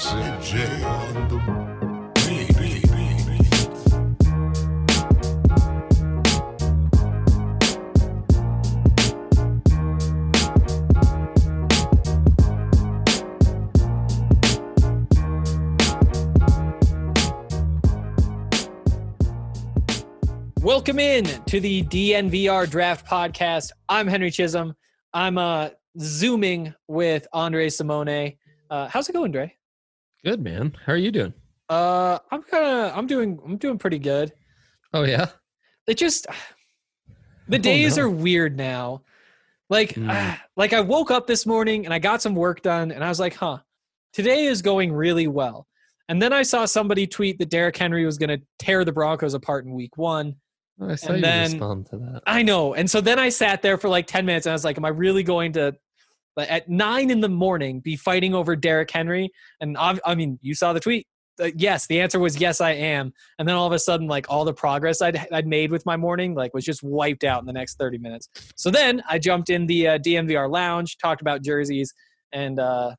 Sid J on the beat. Welcome in to the DNVR Draft Podcast. I'm Henry Chisholm. I'm Zooming with Andre Simone. How's it going, Dre? Good, man. How are you doing? I'm doing pretty good. Oh yeah. It just the days are weird now. Like I woke up this morning and I got some work done and I was like, today is going really well. And then I saw somebody tweet that Derrick Henry was going to tear the Broncos apart in week 1. I saw you respond to that. I know. And so then I sat there for like 10 minutes and I was like, am I really going to, at 9 a.m, be fighting over Derrick Henry? And I mean, you saw the tweet. Yes, the answer was yes, I am. And then all of a sudden, like all the progress I'd made with my morning, like was just wiped out in the next 30 minutes. So then I jumped in the DNVR lounge, talked about jerseys, and that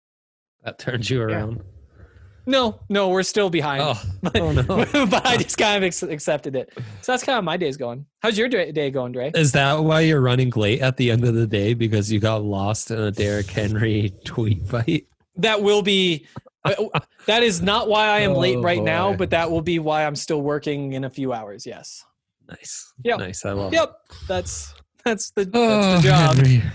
turned you around. Yeah. No, we're still behind. Oh no. But I just kind of accepted it. So that's kind of my day's going. How's your day going, Dre? Is that why you're running late at the end of the day? Because you got lost in a Derrick Henry tweet fight? That will be... that is not why I am late right now, but that will be why I'm still working in a few hours, yes. Nice. Yep. Nice, I love it. Yep, that's the job.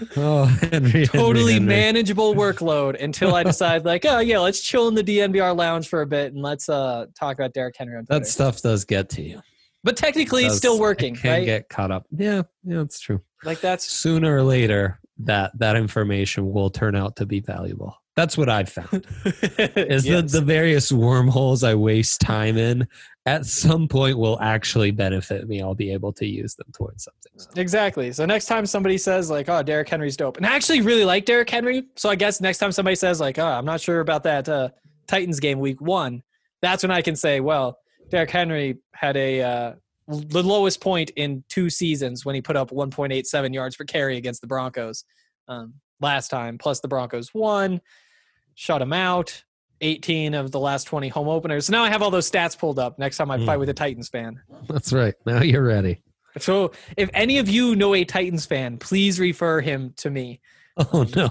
Henry. Totally manageable workload until I decide like, oh yeah, let's chill in the DNVR lounge for a bit and let's talk about Derrick Henry on Twitter. That stuff does get to you. But technically it's still working, right? Get caught up. Yeah, it's true. Like that's sooner or later that information will turn out to be valuable. That's what I've found. Is yes. the various wormholes I waste time in at some point will actually benefit me. I'll be able to use them towards something. So. Exactly. So next time somebody says like, oh, Derrick Henry's dope. And I actually really like Derrick Henry. So I guess next time somebody says like, oh, I'm not sure about that Titans game week 1. That's when I can say, well, Derrick Henry had the lowest point in 2 seasons when he put up 1.87 yards per carry against the Broncos last time. Plus the Broncos won. Shut him out. 18 of the last 20 home openers. So now I have all those stats pulled up next time I fight with a Titans fan. That's right. Now you're ready. So if any of you know a Titans fan, please refer him to me. Oh, no.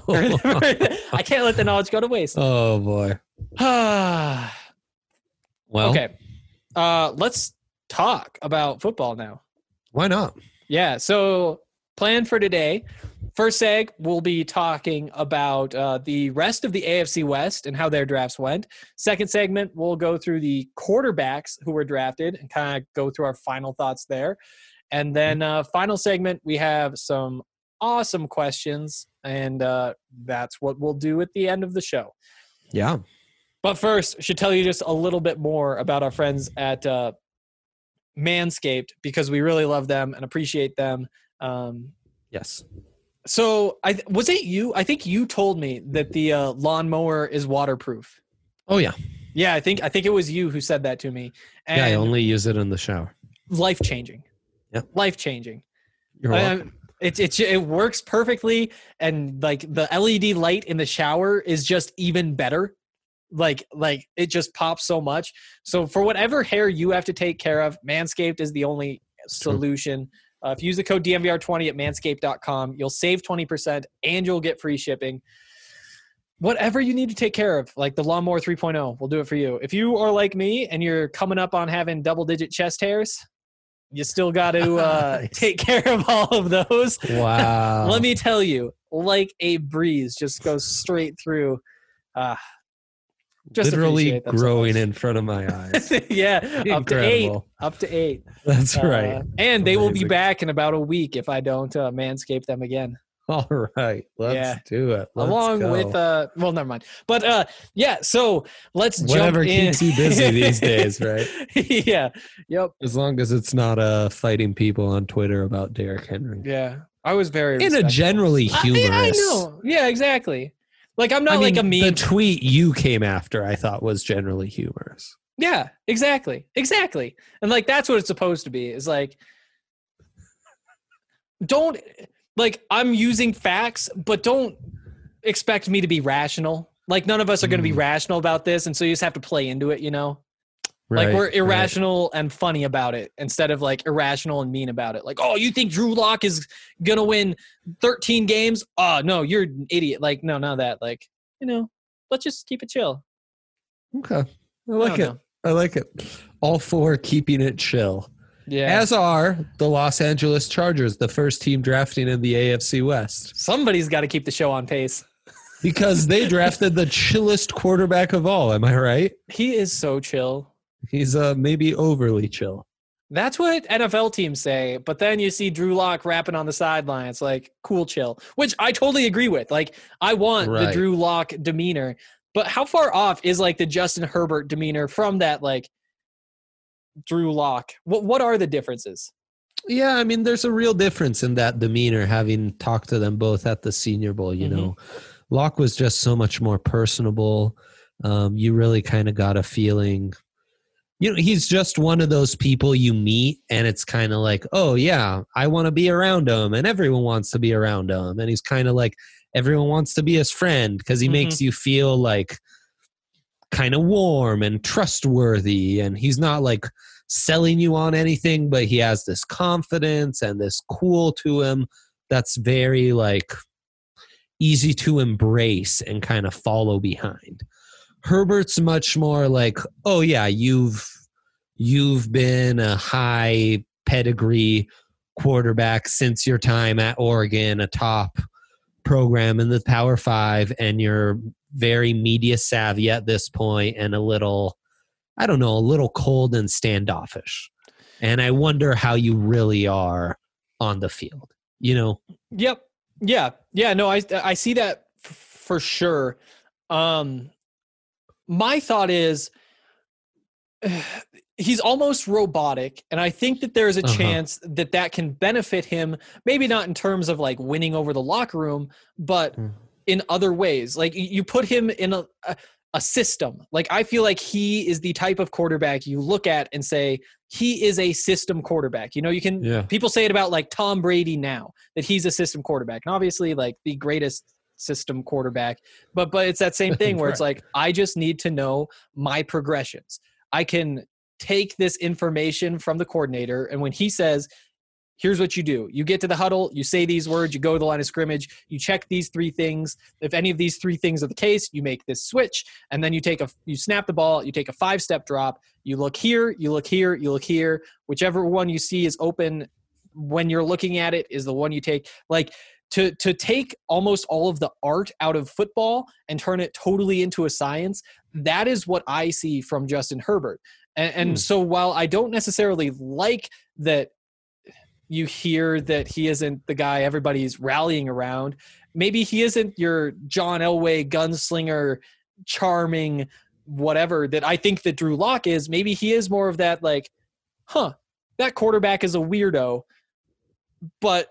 I can't let the knowledge go to waste. Oh, boy. Well, okay. Let's talk about football now. Why not? Yeah. So plan for today. First seg, we'll be talking about the rest of the AFC West and how their drafts went. Second segment, we'll go through the quarterbacks who were drafted and kind of go through our final thoughts there. And then final segment, we have some awesome questions, and that's what we'll do at the end of the show. Yeah. But first, I should tell you just a little bit more about our friends at Manscaped because we really love them and appreciate them. Yes. So was it you? I think you told me that the lawnmower is waterproof. Oh yeah. Yeah, I think it was you who said that to me. And yeah, I only use it in the shower. Life-changing. Yeah. Life-changing. You're welcome. It works perfectly, and like the LED light in the shower is just even better. Like it just pops so much. So for whatever hair you have to take care of, Manscaped is the only solution. If you use the code DNVR20 at manscaped.com, you'll save 20% and you'll get free shipping. Whatever you need to take care of, like the Lawnmower 3.0, we'll do it for you. If you are like me and you're coming up on having double-digit chest hairs, you still got to take care of all of those. Wow. Let me tell you, like a breeze, just goes straight through. Just literally growing in front of my eyes. Yeah, Incredible. up to 8. That's right. And they will be back in about a week if I don't manscape them again. All right, let's do it. Along with well, never mind. But yeah, so let's whatever jump in. keeps you busy these days, right? Yeah. Yep. As long as it's not fighting people on Twitter about Derrick Henry. Yeah, I was very in a generally humorous. I know. Yeah, exactly. Like I'm not like a meme. The tweet you came after, I thought, was generally humorous. Yeah, exactly. And like that's what it's supposed to be. Is like, don't like I'm using facts, but don't expect me to be rational. Like none of us are going to be rational about this, and so you just have to play into it, Right, like we're irrational and funny about it instead of like irrational and mean about it. Like, oh, you think Drew Lock is going to win 13 games? Oh, no, you're an idiot. Like, no, not that. Like, let's just keep it chill. Okay. I like it. I like it. All for keeping it chill. Yeah. As are the Los Angeles Chargers, the first team drafting in the AFC West. Somebody's got to keep the show on pace. Because they drafted the chillest quarterback of all. Am I right? He is so chill. He's maybe overly chill. That's what NFL teams say. But then you see Drew Lock rapping on the sidelines, like cool chill, which I totally agree with. Like I want the Drew Lock demeanor, but how far off is like the Justin Herbert demeanor from that like Drew Lock? What are the differences? Yeah, I mean, there's a real difference in that demeanor, having talked to them both at the Senior Bowl, you know. Lock was just so much more personable. You really kind of got a feeling, he's just one of those people you meet and it's kind of like, oh yeah, I want to be around him and everyone wants to be around him. And he's kind of like, everyone wants to be his friend because he makes you feel like kind of warm and trustworthy. And he's not like selling you on anything, but he has this confidence and this cool to him that's very like easy to embrace and kind of follow behind. Herbert's much more like, oh yeah, you've been a high pedigree quarterback since your time at Oregon, a top program in the Power 5, and you're very media savvy at this point and a little cold and standoffish. And I wonder how you really are on the field, Yep. Yeah. No, I see that for sure. My thought is he's almost robotic, and I think that there's a chance that can benefit him, maybe not in terms of like winning over the locker room, but in other ways. Like you put him in a system. Like I feel like he is the type of quarterback you look at and say, he is a system quarterback. People say it about like Tom Brady now, that he's a system quarterback. And obviously like the greatest system quarterback, but it's that same thing where it's like, I just need to know my progressions. I can take this information from the coordinator, and when he says, here's what you do, you get to the huddle, you say these words, you go to the line of scrimmage, you check these 3 things. If any of these 3 things are the case, you make this switch, and then you snap the ball, you take a 5-step drop, you look here, you look here, you look here, whichever one you see is open when you're looking at it is the one you take. Like to take almost all of the art out of football and turn it totally into a science, that is what I see from Justin Herbert. And so while I don't necessarily like that you hear that he isn't the guy everybody's rallying around, maybe he isn't your John Elway gunslinger, charming, whatever that I think that Drew Lock is. Maybe he is more of that like, that quarterback is a weirdo, but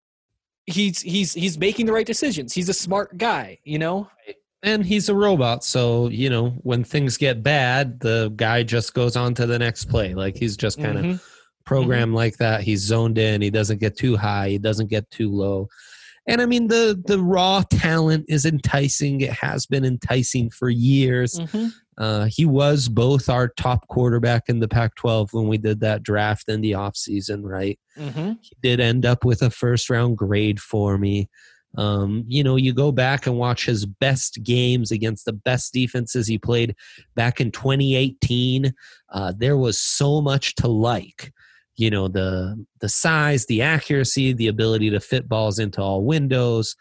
he's making the right decisions. He's a smart guy, And he's a robot, so, when things get bad, the guy just goes on to the next play. Like, he's just kind of programmed like that. He's zoned in. He doesn't get too high. He doesn't get too low. And, I mean, the raw talent is enticing. It has been enticing for years. He was both our top quarterback in the Pac-12 when we did that draft in the offseason, right? He did end up with a first-round grade for me. You go back and watch his best games against the best defenses he played back in 2018. There was so much to like, the size, the accuracy, the ability to fit balls into all windows,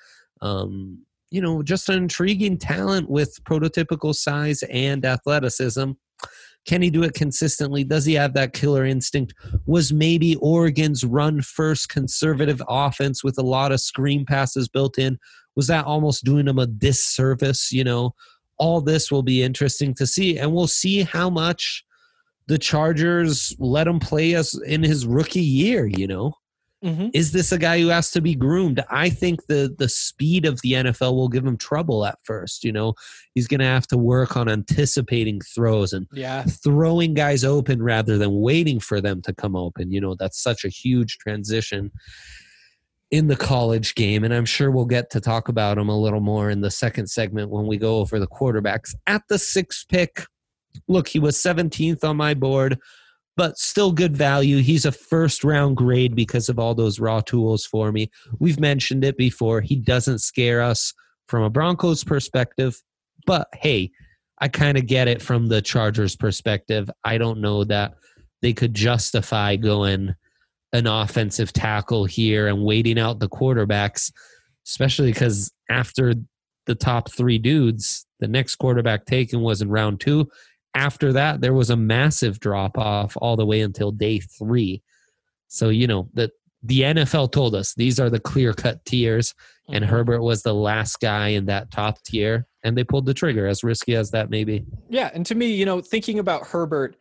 just an intriguing talent with prototypical size and athleticism. Can he do it consistently? Does he have that killer instinct? Was maybe Oregon's run-first conservative offense with a lot of screen passes built in, was that almost doing him a disservice? All this will be interesting to see, and we'll see how much the Chargers let him play us in his rookie year, Is this a guy who has to be groomed? I think the speed of the NFL will give him trouble at first. He's going to have to work on anticipating throws and throwing guys open rather than waiting for them to come open. That's such a huge transition. in the college game, and I'm sure we'll get to talk about him a little more in the second segment when we go over the quarterbacks. At the 6th pick, look, he was 17th on my board, but still good value. He's a first-round grade because of all those raw tools for me. We've mentioned it before. He doesn't scare us from a Broncos perspective, but hey, I kind of get it from the Chargers perspective. I don't know that they could justify going an offensive tackle here and waiting out the quarterbacks, especially because after the top 3 dudes, the next quarterback taken was in round 2. After that, there was a massive drop-off all the way until day 3. So, the NFL told us these are the clear-cut tiers, and Herbert was the last guy in that top tier, and they pulled the trigger, as risky as that may be. Yeah, and to me, thinking about Herbert,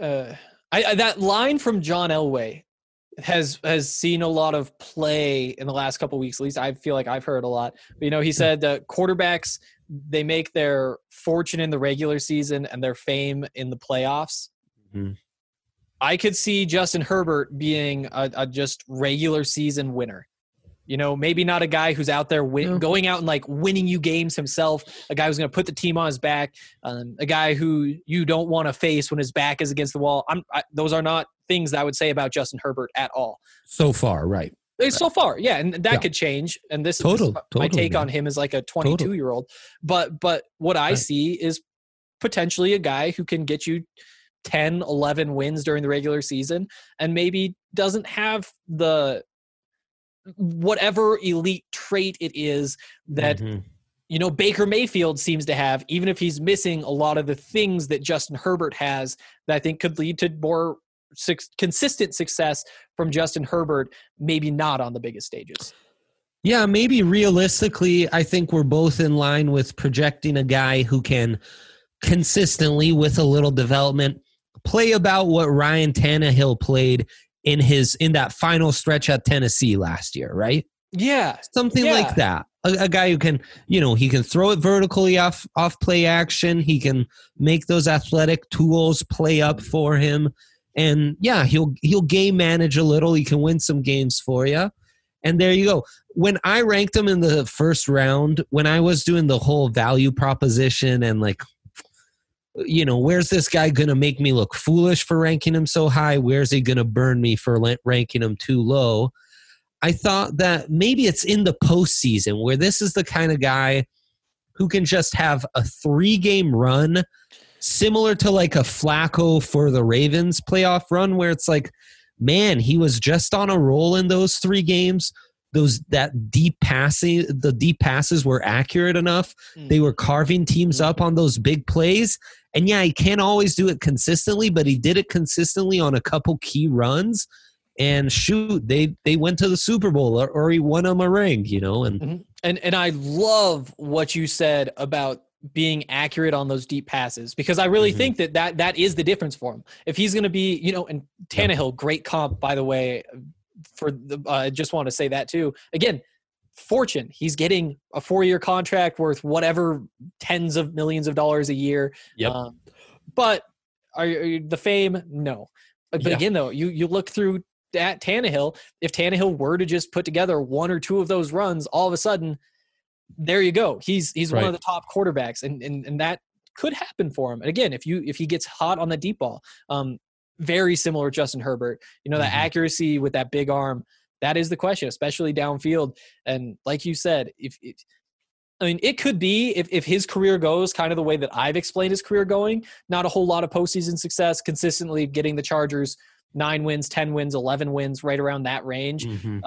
that line from John Elway has seen a lot of play in the last couple of weeks. At least I feel like I've heard a lot. But, he said that quarterbacks, they make their fortune in the regular season and their fame in the playoffs. Mm-hmm. I could see Justin Herbert being a just regular season winner. Maybe not a guy who's out there going out and like winning you games himself, a guy who's going to put the team on his back, a guy who you don't want to face when his back is against the wall. Those are not things that I would say about Justin Herbert at all. So far, right. So far, yeah, and that could change. And this is my take on him as like a 22-year-old. But what I see is potentially a guy who can get you 10, 11 wins during the regular season and maybe doesn't have the whatever elite trait it is that Baker Mayfield seems to have, even if he's missing a lot of the things that Justin Herbert has that I think could lead to more consistent success from Justin Herbert, maybe not on the biggest stages. Yeah, maybe realistically, I think we're both in line with projecting a guy who can consistently, with a little development, play about what Ryan Tannehill played in that final stretch at Tennessee last year, right? Yeah. Something like that. A guy who can, he can throw it vertically off play action. He can make those athletic tools play up for him. And yeah, he'll game manage a little. He can win some games for you. And there you go. When I ranked him in the first round, when I was doing the whole value proposition and like, where's this guy going to make me look foolish for ranking him so high? Where's he going to burn me for ranking him too low? I thought that maybe it's in the postseason where this is the kind of guy who can just have a 3-game run, similar to like a Flacco for the Ravens playoff run, where it's like, man, he was just on a roll in those 3 games. The deep passes were accurate enough. They were carving teams up on those big plays. And yeah, he can't always do it consistently, but he did it consistently on a couple key runs. And shoot, they went to the Super Bowl or he won them a ring, And I love what you said about being accurate on those deep passes, because I really think that is the difference for him. If he's going to be, and Tannehill, great comp, by the way, for the, I just want to say that too. Again, fortune. He's getting a 4-year contract worth whatever tens of millions of dollars a year. Yep. But are the fame? No. But again, though, you look through at Tannehill. If Tannehill were to just put together 1 or 2 of those runs, all of a sudden, there you go. He's one of the top quarterbacks, and that could happen for him. And again, if he gets hot on the deep ball, very similar to Justin Herbert. That accuracy with that big arm, that is the question, especially downfield. And like you said, it could be if his career goes kind of the way that I've explained his career going, not a whole lot of postseason success, consistently getting the Chargers 9 wins, 10 wins, 11 wins, right around that range.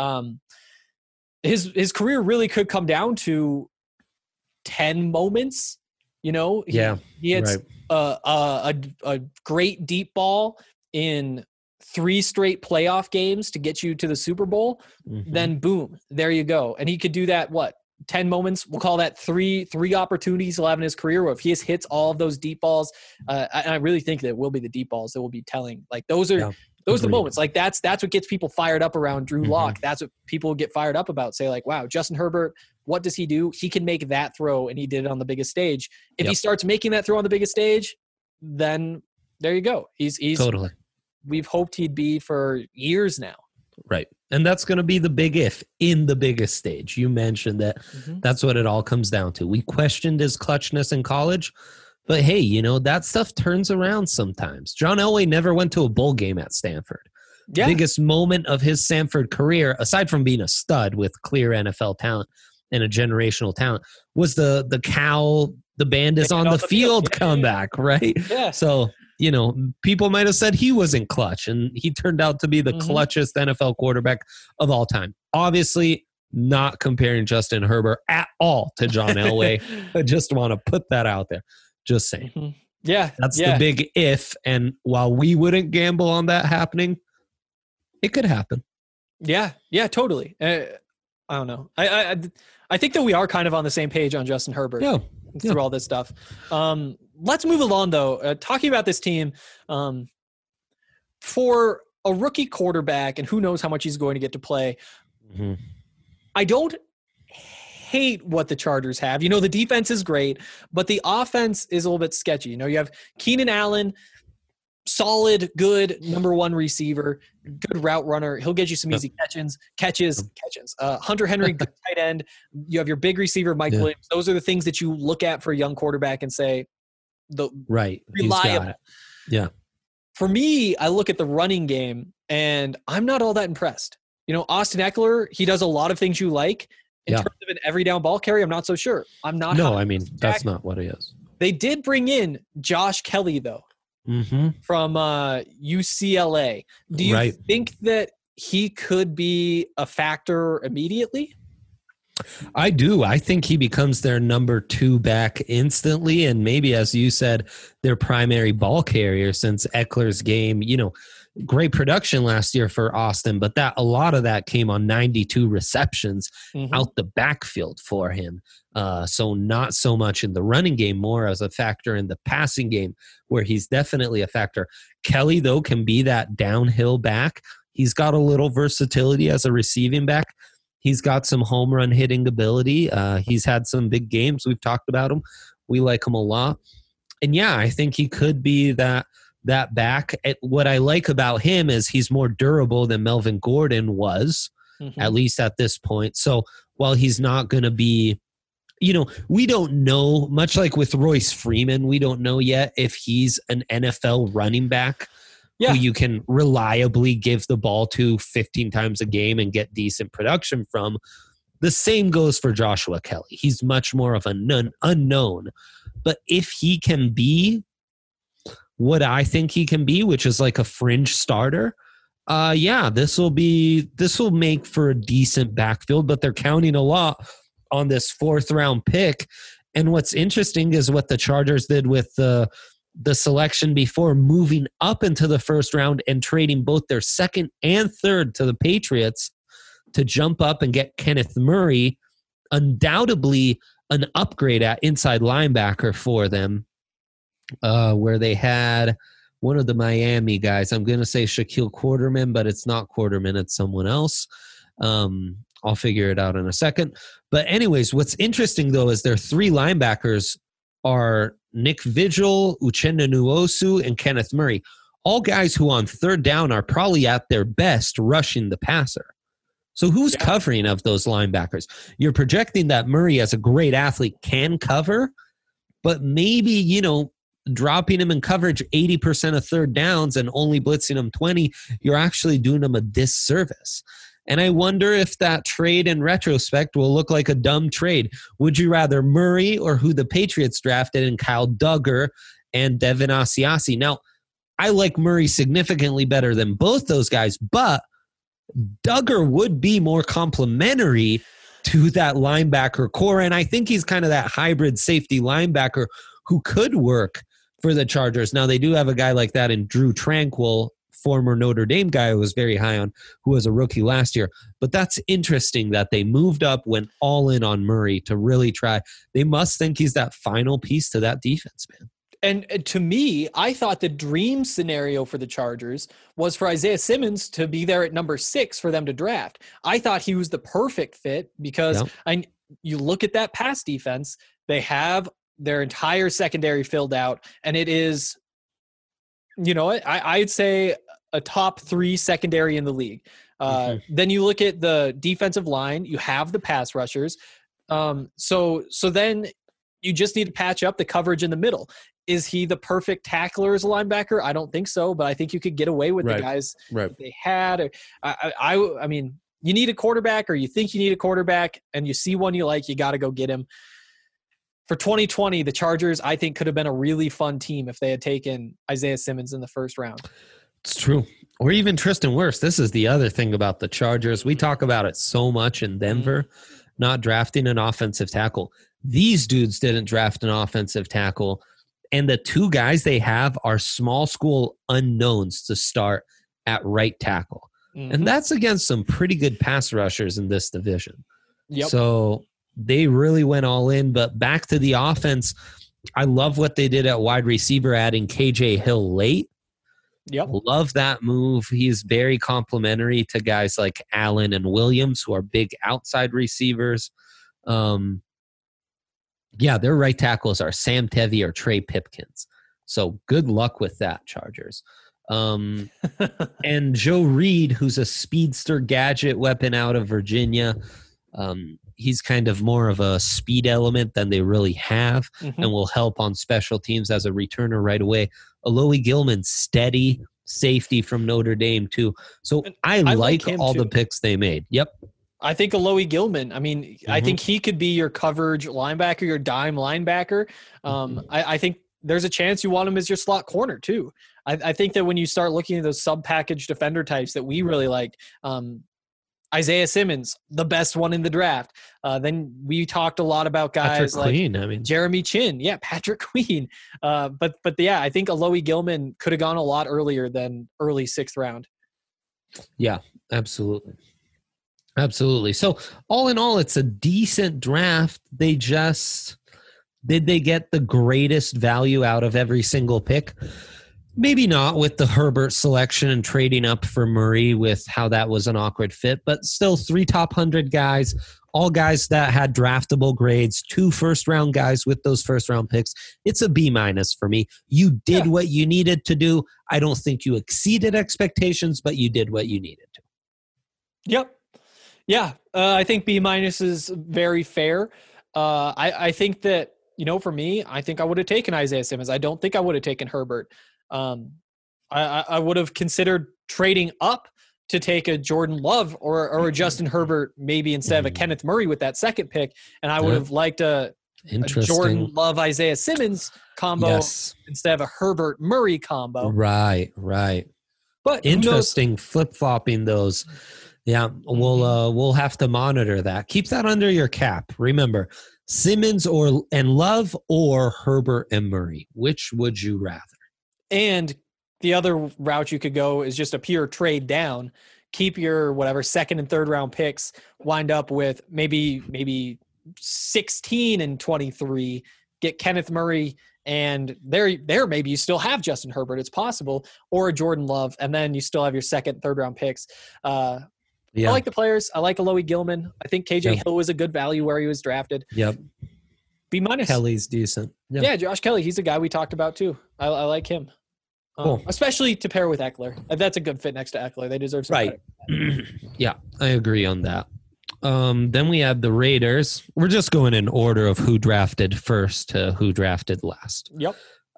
His career really could come down to 10 moments. He hits a great deep ball in 3 straight playoff games to get you to the Super Bowl. Then boom, there you go. And he could do that. 10 moments. We'll call that three opportunities he'll have in his career where if he just hits all of those deep balls, I really think that it will be the deep balls that will be telling. Like those are the moments. Like that's what gets people fired up around Drew Lock. That's what people get fired up about. Say like, wow, Justin Herbert, what does he do? He can make that throw, and he did it on the biggest stage. If he starts making that throw on the biggest stage, then there you go. He's totally. We've hoped he'd be for years now. Right. And that's going to be the big if in the biggest stage. You mentioned that that's what it all comes down to. We questioned his clutchness in college, but hey, that stuff turns around sometimes. John Elway never went to a bowl game at Stanford. Yeah. Biggest moment of his Stanford career, aside from being a stud with clear NFL talent and a generational talent, was the band is on the field comeback, right? Yeah. So, people might have said he wasn't clutch, and he turned out to be the clutchest NFL quarterback of all time. Obviously, not comparing Justin Herbert at all to John Elway. I just want to put that out there. Just saying. Yeah. That's the big if. And while we wouldn't gamble on that happening, it could happen. Yeah. Yeah, totally. I don't know. I think that we are kind of on the same page on Justin Herbert through all this stuff. Let's move along, though. Talking about this team, for a rookie quarterback, and who knows how much he's going to get to play, I don't hate what the Chargers have. The defense is great, but the offense is a little bit sketchy. You have Keenan Allen, solid, good number one receiver, good route runner. He'll get you some easy catches. Hunter Henry, good tight end. You have your big receiver, Mike Williams. Those are the things that you look at for a young quarterback and say, reliable. Yeah. For me, I look at the running game, and I'm not all that impressed. Austin Eckler, he does a lot of things you like. In terms of an every down ball carry, I'm not so sure. I'm not. No, I mean, that's not what he is. They did bring in Josh Kelly, though, from UCLA. Do you think that he could be a factor immediately? I do. I think he becomes their number 2 back instantly, and maybe, as you said, their primary ball carrier, since Eckler's game, great production last year for Austin, but a lot of that came on 92 receptions out the backfield for him. So not so much in the running game, more as a factor in the passing game, where he's definitely a factor. Kelly, though, can be that downhill back. He's got a little versatility as a receiving back. He's got some home run hitting ability. He's had some big games. We've talked about him. We like him a lot. And I think he could be that back. What I like about him is he's more durable than Melvin Gordon was, at least at this point. So while he's not going to be, we don't know, much like with Royce Freeman, we don't know yet if he's an NFL running back who you can reliably give the ball to 15 times a game and get decent production from. The same goes for Joshua Kelly. He's much more of an unknown. But if he can be what I think he can be, which is like a fringe starter, this will make for a decent backfield, but they're counting a lot on this 4th round pick. And what's interesting is what the Chargers did with the selection before, moving up into the 1st round and trading both their 2nd and 3rd to the Patriots to jump up and get Kenneth Murray, undoubtedly an upgrade at inside linebacker for them. Where they had one of the Miami guys. I'm going to say Shaquille Quarterman, but it's not Quarterman. It's someone else. I'll figure it out in a second. But anyways, what's interesting, though, is their 3 linebackers are Nick Vigil, Uchenna Nwosu, and Kenneth Murray. All guys who on 3rd down are probably at their best rushing the passer. So who's covering of those linebackers? You're projecting that Murray, as a great athlete, can cover, but maybe, dropping him in coverage 80% of 3rd downs and only blitzing him 20, you're actually doing him a disservice. And I wonder if that trade in retrospect will look like a dumb trade. Would you rather Murray or who the Patriots drafted in Kyle Duggar and Devin Asiasi? Now, I like Murray significantly better than both those guys, but Duggar would be more complementary to that linebacker core. And I think he's kind of that hybrid safety linebacker who could work for the Chargers. Now, they do have a guy like that in Drew Tranquill, former Notre Dame guy who was very high on, who was a rookie last year. But that's interesting that they moved up, went all in on Murray to really try. They must think he's that final piece to that defense, man. And to me, I thought the dream scenario for the Chargers was for Isaiah Simmons to be there at number 6 for them to draft. I thought he was the perfect fit because you look at that pass defense, they have their entire secondary filled out, and it is, I'd say a top 3 secondary in the league. Then you look at the defensive line. You have the pass rushers. So then you just need to patch up the coverage in the middle. Is he the perfect tackler as a linebacker? I don't think so, but I think you could get away with the guys that they had. I mean, you need a quarterback, or you think you need a quarterback, and you see one you like, you got to go get him. For 2020, the Chargers, I think, could have been a really fun team if they had taken Isaiah Simmons in the first round. It's true. Or even Tristan Wirfs. This is the other thing about the Chargers. We talk about it so much in Denver, not drafting an offensive tackle. These dudes didn't draft an offensive tackle. And the two guys they have are small school unknowns to start at right tackle. And that's against some pretty good pass rushers in this division. So they really went all in. But back to the offense, I love what they did at wide receiver, adding KJ Hill late. Love that move. He's very complimentary to guys like Allen and Williams, who are big outside receivers. Their right tackles are Sam Tevi or Trey Pipkins. So good luck with that, Chargers. And Joe Reed, who's a speedster gadget weapon out of Virginia. He's kind of more of a speed element than they really have, and will help on special teams as a returner right away. Alohi Gilman, steady safety from Notre Dame too. So I like all the picks they made. I think Alohi Gilman, I mean, I think he could be your coverage linebacker, your dime linebacker. I think there's a chance you want him as your slot corner too. I think that when you start looking at those sub-package defender types that we really like, Isaiah Simmons, the best one in the draft. Then we talked a lot about guys Patrick Queen, Jeremy Chin. Yeah, Patrick Queen. But I think Alohi Gilman could have gone a lot earlier than early 6th round. Yeah, absolutely. Absolutely. So all in all, it's a decent draft. Did they get the greatest value out of every single pick? Maybe not with the Herbert selection and trading up for Murray with how that was an awkward fit, but still 3 top 100 guys, all guys that had draftable grades, 2 first-round guys with those first-round picks. It's a B- for me. You did what you needed to do. I don't think you exceeded expectations, but you did what you needed to. Yep. Yeah, I think B- is very fair. I think that, for me, I think I would have taken Isaiah Simmons. I don't think I would have taken Herbert. I would have considered trading up to take a Jordan Love or a Justin Herbert, maybe instead of a Kenneth Murray with that second pick. And I would have liked a Jordan Love, Isaiah Simmons combo instead of a Herbert Murray combo. Right. But interesting flip-flopping those. Yeah, we'll have to monitor that. Keep that under your cap. Remember, Simmons and Love or Herbert and Murray. Which would you rather? And the other route you could go is just a pure trade down. Keep your whatever 2nd and 3rd round picks. Wind up with maybe 16 and 23. Get Kenneth Murray, and there maybe you still have Justin Herbert. It's possible, or a Jordan Love, and then you still have your 2nd, 3rd round picks. I like the players. I like Alohi Gilman. I think KJ Hill was a good value where he was drafted. B-. Kelly's decent. Yeah, Josh Kelly. He's a guy we talked about too. I like him. Cool. Especially to pair with Eckler. That's a good fit next to Eckler. They deserve some credit. Yeah, I agree on that. Then we have the Raiders. We're just going in order of who drafted first to who drafted last. Yep.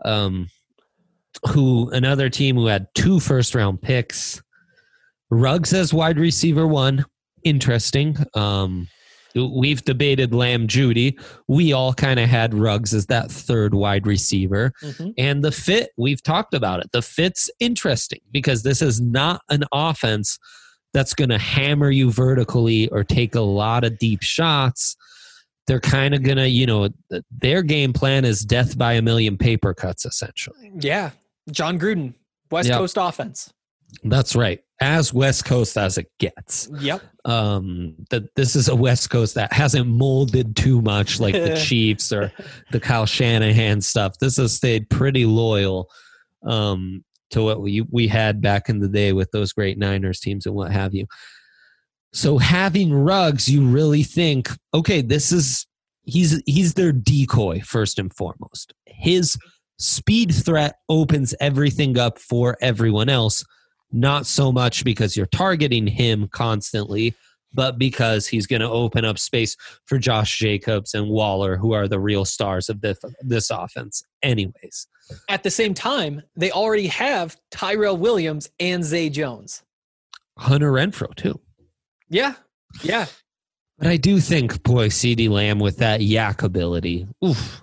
Another team who had 2 first-round picks. Ruggs as wide receiver 1. Interesting. We've debated Lamb Judy. We all kind of had Ruggs as that 3rd wide receiver. And the fit, we've talked about it. The fit's interesting because this is not an offense that's going to hammer you vertically or take a lot of deep shots. They're kind of going to, their game plan is death by a million paper cuts, essentially. Yeah. John Gruden, West Coast offense. That's right. As West Coast as it gets. Yep. This is a West Coast that hasn't molded too much like the Chiefs or the Kyle Shanahan stuff. This has stayed pretty loyal to what we had back in the day with those great Niners teams and what have you. So having Ruggs, you really think, okay, he's their decoy first and foremost. His speed threat opens everything up for everyone else. not so much because you're targeting him constantly, but because he's going to open up space for Josh Jacobs and Waller, who are the real stars of this offense anyways. At the same time, they already have Tyrell Williams and Zay Jones. Hunter Renfrow, too. Yeah. But I do think, boy, CeeDee Lamb with that yak ability, oof.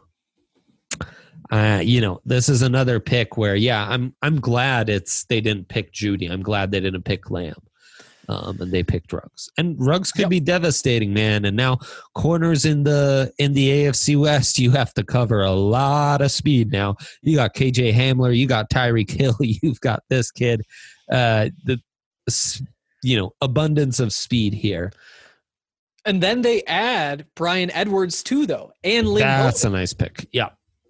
This is another pick where, I'm glad they didn't pick Judy. I'm glad they didn't pick Lamb. And they picked Ruggs. And Ruggs could be devastating, man. And now corners in the AFC West, you have to cover a lot of speed now. You got KJ Hamler, you got Tyreek Hill, you've got this kid. Abundance of speed here. And then they add Bryan Edwards too, though, and Lynn That's Bowden. A nice pick. Yeah.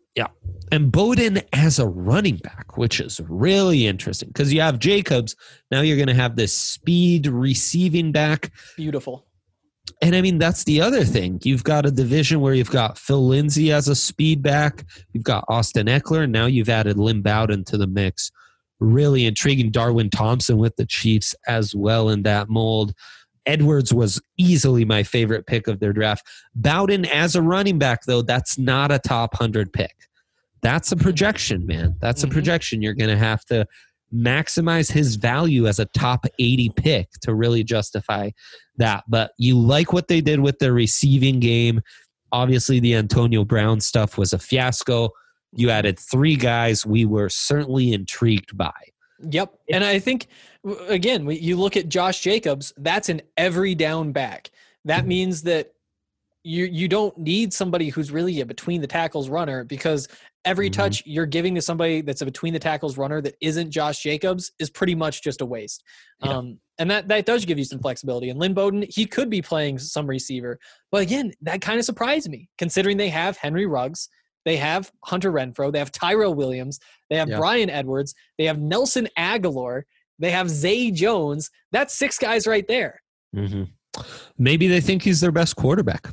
And Bowden as a running back, which is really interesting because you have Jacobs. Now you're going to have this speed receiving back. Beautiful. And I mean, that's the other thing. You've got a division where you've got Phil Lindsay as a speed back. You've got Austin Eckler. And now you've added Lynn Bowden to the mix. Really intriguing. Darwin Thompson with the Chiefs as well in that mold. Edwards was easily my favorite pick of their draft. Bowden as a running back, though, that's not a top 100 pick. That's a projection, man. That's a projection. You're going to have to maximize his value as a top 80 pick to really justify that. But you like what they did with their receiving game. Obviously, the Antonio Brown stuff was a fiasco. You added 3 guys we were certainly intrigued by. Yep. And I think, again, you look at Josh Jacobs, that's an every down back. That means that you don't need somebody who's really a between the tackles runner, because every touch you're giving to somebody that's a between the tackles runner that isn't Josh Jacobs is pretty much just a waste. Yeah. And that does give you some flexibility. And Lynn Bowden, he could be playing some receiver. But again, that kind of surprised me, considering they have Henry Ruggs, they have Hunter Renfrow, they have Tyrell Williams, they have Bryan Edwards, they have Nelson Aguilar, they have Zay Jones. That's 6 guys right there. Mm-hmm. Maybe they think he's their best quarterback.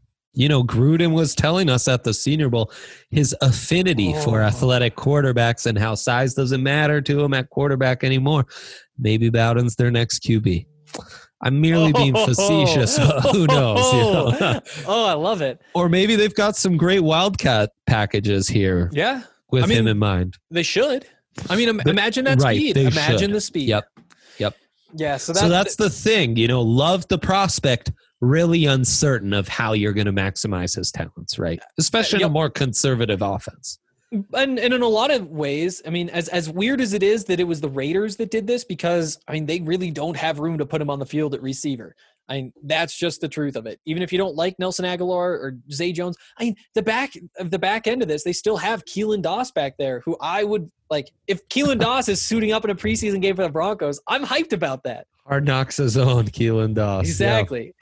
Gruden was telling us at the Senior Bowl his affinity for athletic quarterbacks and how size doesn't matter to him at quarterback anymore. Maybe Bowden's their next QB. I'm merely being facetious, but who knows? I love it. Or maybe they've got some great Wildcat packages here. Yeah. With him in mind. They should. I mean, imagine that speed. Imagine the speed. Yep. Yeah. So that's the thing. Love the prospect. Really uncertain of how you're going to maximize his talents, right? Especially in a more conservative offense. And in a lot of ways, I mean, as weird as it is that it was the Raiders that did this, because, I mean, they really don't have room to put him on the field at receiver. I mean, that's just the truth of it. Even if you don't like Nelson Aguilar or Zay Jones, I mean, the back end of this, they still have Keelan Doss back there, who I would like. If Keelan Doss is suiting up in a preseason game for the Broncos, I'm hyped about that. Hard Knocks' own Keelan Doss. Exactly.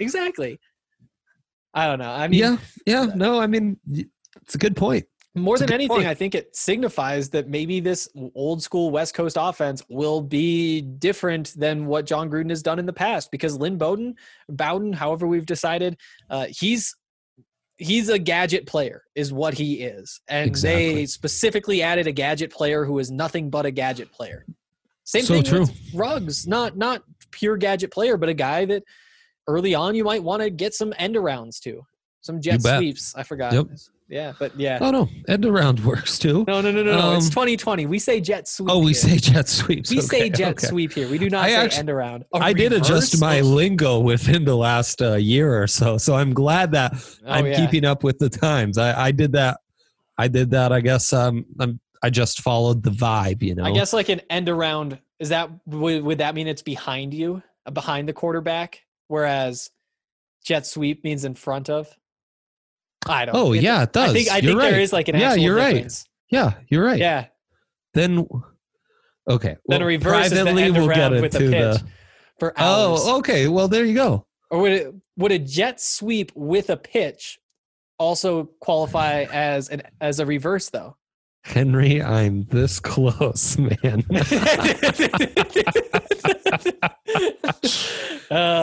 I don't know. I mean, no, I mean, it's a good point. More than anything, I think it signifies that maybe this old school West Coast offense will be different than what John Gruden has done in the past, because Lynn Bowden, however we've decided, he's a gadget player is what he is. And They specifically added a gadget player who is nothing but a gadget player. Same thing with Ruggs, not pure gadget player, but a guy that early on you might want to get some end arounds to, some jet sweeps. I forgot. Yep. Yeah, but yeah. Oh, no. End around works too. No. It's 2020. We say jet sweep. Oh, we say jet sweeps. We say jet sweep here. We do not say end around. I did adjust my lingo within the last year or so. So I'm glad that I'm keeping up with the times. I did that. I guess I just followed the vibe, I guess like an end around, would that mean it's behind you, behind the quarterback? Whereas jet sweep means in front of? I don't know. Oh, yeah, it does. I think there is like an actual difference. Yeah, you're right. Yeah. Then, okay. Then a reverse is the end around with a pitch for hours. Oh, okay. Well, there you go. Or would a jet sweep with a pitch also qualify as a reverse, though? Henry, I'm this close, man.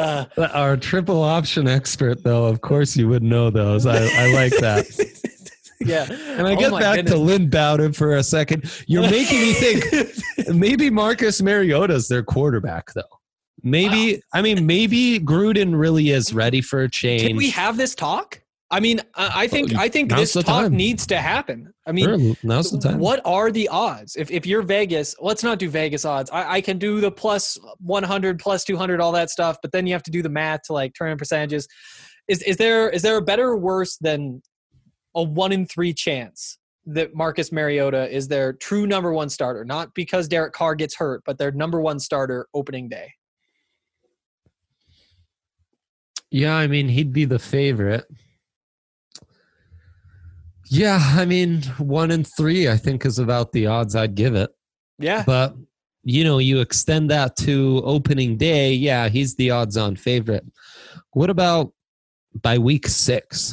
Our triple option expert, though, of course you would know those. I like that. Yeah. And I get back to Lynn Bowden for a second. You're making me think maybe Marcus Mariota's their quarterback, though. Maybe, wow. I mean, maybe Gruden really is ready for a change. Can we have this talk? I mean, I think this talk needs to happen. I mean, sure, now's the time. What are the odds? If you're Vegas, let's not do Vegas odds. I can do the plus 100, plus 200, all that stuff, but then you have to do the math to like turn in percentages. Is there a better or worse than a 1 in 3 chance that Marcus Mariota is their true number one starter? Not because Derek Carr gets hurt, but their number one starter opening day. Yeah, I mean, he'd be the favorite. Yeah, I mean, 1 in 3, I think, is about the odds I'd give it. Yeah. But, you extend that to opening day, yeah, he's the odds-on favorite. What about by week 6?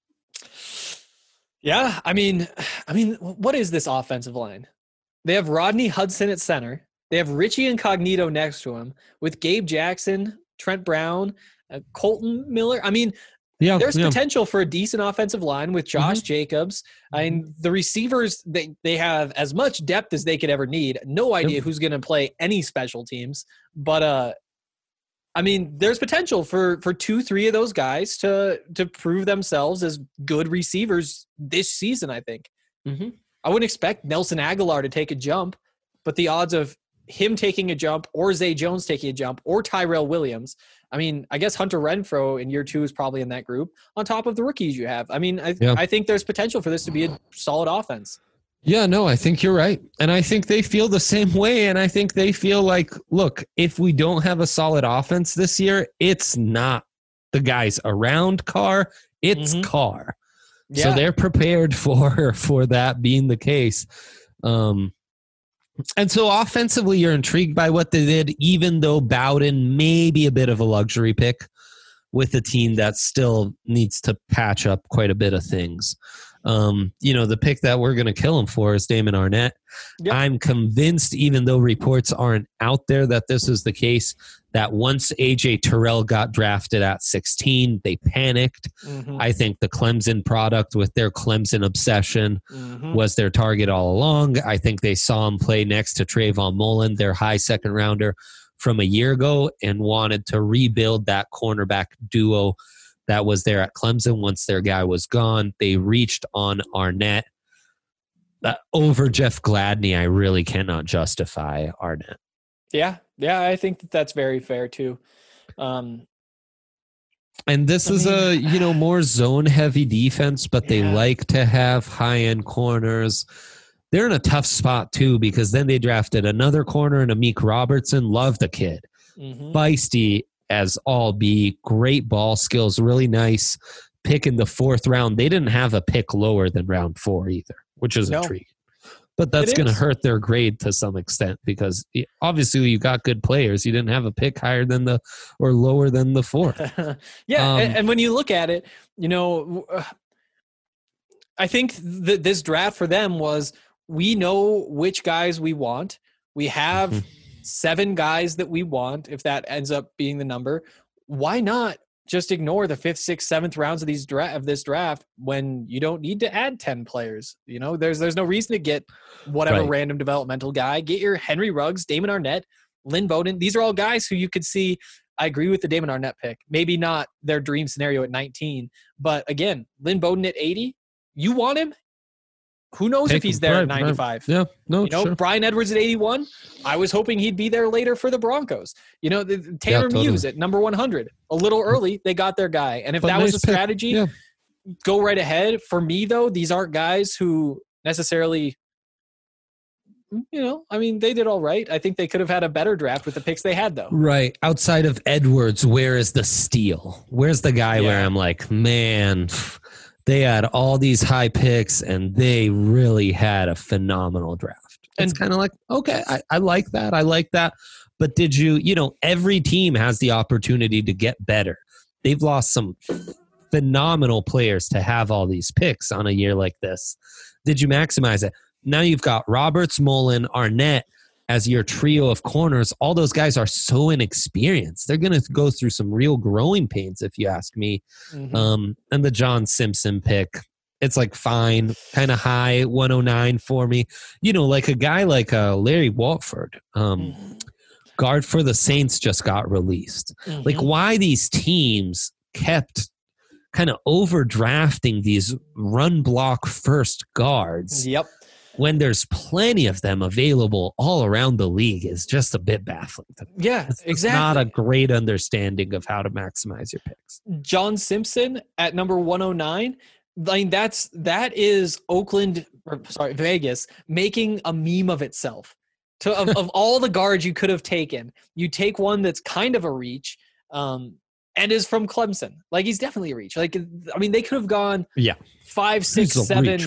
Yeah, I mean, what is this offensive line? They have Rodney Hudson at center. They have Richie Incognito next to him with Gabe Jackson, Trent Brown, Colton Miller. I mean, there's potential for a decent offensive line with Josh Jacobs. I mean, the receivers, they have as much depth as they could ever need. No idea who's going to play any special teams. But, I mean, there's potential for 2-3 of those guys to prove themselves as good receivers this season, I think. Mm-hmm. I wouldn't expect Nelson Aguilar to take a jump, but the odds of him taking a jump or Zay Jones taking a jump or Tyrell Williams, I mean, I guess Hunter Renfrow in year 2 is probably in that group on top of the rookies you have. I mean, I think there's potential for this to be a solid offense. Yeah, no, I think you're right. And I think they feel the same way. And I think they feel like, look, if we don't have a solid offense this year, it's not the guys around Carr, it's Carr. Yeah. So they're prepared for that being the case. And so offensively, you're intrigued by what they did, even though Bowden may be a bit of a luxury pick with a team that still needs to patch up quite a bit of things. The pick that we're going to kill him for is Damon Arnett. Yep. I'm convinced, even though reports aren't out there that this is the case, that once A.J. Terrell got drafted at 16, they panicked. Mm-hmm. I think the Clemson product with their Clemson obsession was their target all along. I think they saw him play next to Trayvon Mullen, their high second rounder from a year ago, and wanted to rebuild that cornerback duo that was there at Clemson. Once their guy was gone, they reached on Arnett. Over Jeff Gladney, I really cannot justify Arnett. Yeah, I think that's very fair too. And this is a more zone-heavy defense, but they like to have high-end corners. They're in a tough spot too because then they drafted another corner in Amik Robertson. Love the kid. Feisty as all be, great ball skills, really nice pick in the 4th round. They didn't have a pick lower than round 4 either, which is intriguing. But that's going to hurt their grade to some extent because obviously you got good players. You didn't have a pick higher than or lower than the 4th. And when you look at it, I think this draft for them was, we know which guys we want. We have 7 guys that we want, if that ends up being the number. Why not just ignore the 5th, 6th, 7th rounds of this draft when you don't need to add 10 players? There's no reason to get whatever random developmental guy. Get your Henry Ruggs, Damon Arnett, Lynn Bowden. These are all guys who you could see. I agree with the Damon Arnett pick. Maybe not their dream scenario at 19, but again, Lynn Bowden at 80, you want him? Who knows if he's there at 95? Yeah, no, sure. Brian Edwards at 81. I was hoping he'd be there later for the Broncos. Tanner Muse at number 100. A little early, they got their guy. And if that was a strategy, go right ahead. For me, though, these aren't guys who necessarily, they did all right. I think they could have had a better draft with the picks they had, though. Right. Outside of Edwards, where is the steal? Where's the guy where I'm like, man, they had all these high picks and they really had a phenomenal draft. It's kind of like, okay, I like that. I like that. But did every team has the opportunity to get better. They've lost some phenomenal players to have all these picks on a year like this. Did you maximize it? Now you've got Roberts, Mullen, Arnett as your trio of corners. All those guys are so inexperienced. They're going to go through some real growing pains, if you ask me. And the John Simpson pick, It's like fine, kind of high, 109 for me. Like a guy like Larry Walford, guard for the Saints, just got released. Like why these teams kept kind of overdrafting these run block first guards. Yep. When there's plenty of them available all around the league is just a bit baffling to me. Yeah, it's not a great understanding of how to maximize your picks. John Simpson at number 109. I mean, that is Vegas making a meme of itself. Of all the guards you could have taken, you take one that's kind of a reach, and is from Clemson. Like he's definitely a reach. Like I mean, they could have gone 5, 6, 7, reach,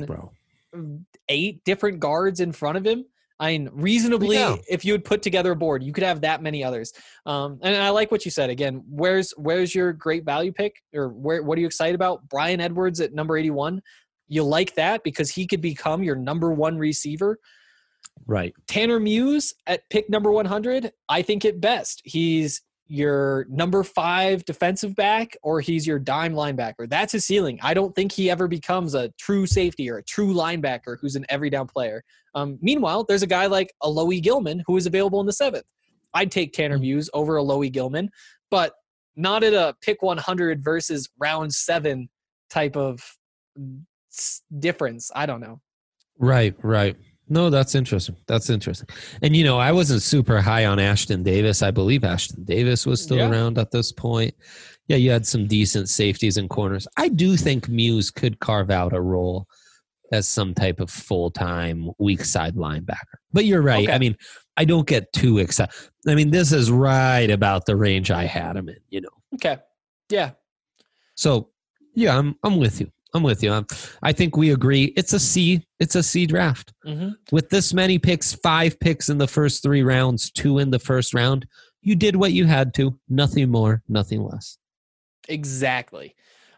8 different guards in front of him. I mean, reasonably, if you would put together a board, you could have that many others. And I like what you said. Again, where's your great value pick, or what are you excited about? Bryan Edwards at number 81. You like that because he could become your number 1 receiver. Right. Tanner Muse at pick number 100. I think at best he's your number 5 defensive back, or he's your dime linebacker. That's his ceiling. I don't think he ever becomes a true safety or a true linebacker who's an every down player. Meanwhile, there's a guy like Alohi Gilman who is available in the 7th. I'd take Tanner Muse over Alohi Gilman, but not at a pick 100 versus round 7 type of difference. I don't know. Right. No, that's interesting. And, I wasn't super high on Ashton Davis. I believe Ashton Davis was still around at this point. Yeah, you had some decent safeties and corners. I do think Muse could carve out a role as some type of full-time weak side linebacker. But you're right. Okay. I mean, I don't get too excited. I mean, this is right about the range I had him in, Okay. Yeah. So, yeah, I'm with you. I think we agree. It's a C draft. With this many picks, 5 picks in the first 3 rounds, 2 in the first round, you did what you had to. Nothing more, nothing less. Exactly.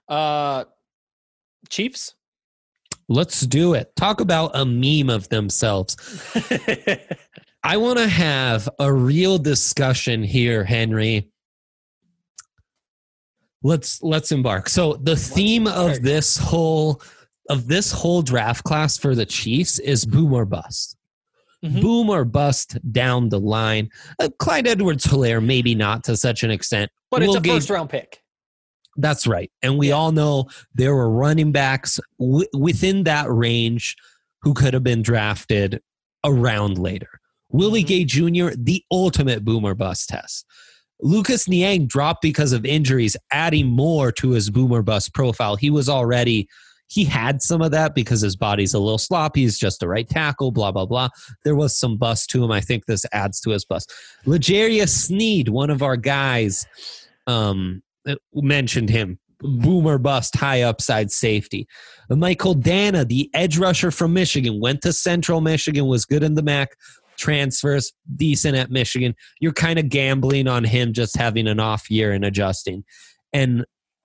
Chiefs? Let's do it. Talk about a meme of themselves. I want to have a real discussion here, Henry. Let's embark. So the theme of this whole draft class for the Chiefs is boom or bust. Boom or bust down the line. Clyde Edwards-Helaire, maybe not to such an extent. But it's a first-round pick. That's right. And we all know there were running backs within that range who could have been drafted a round later. Willie Gay Jr., the ultimate boom or bust test. Lucas Niang dropped because of injuries, adding more to his boom or bust profile. He had some of that because his body's a little sloppy. He's just a right tackle, blah, blah, blah. There was some bust to him. I think this adds to his bust. L'Jarius Sneed, one of our guys, mentioned him. Boom or bust, high upside safety. Michael Dana, the edge rusher from Michigan, went to Central Michigan, was good in the MAC. Transfers, decent at Michigan. You're kind of gambling on him just having an off year and adjusting. And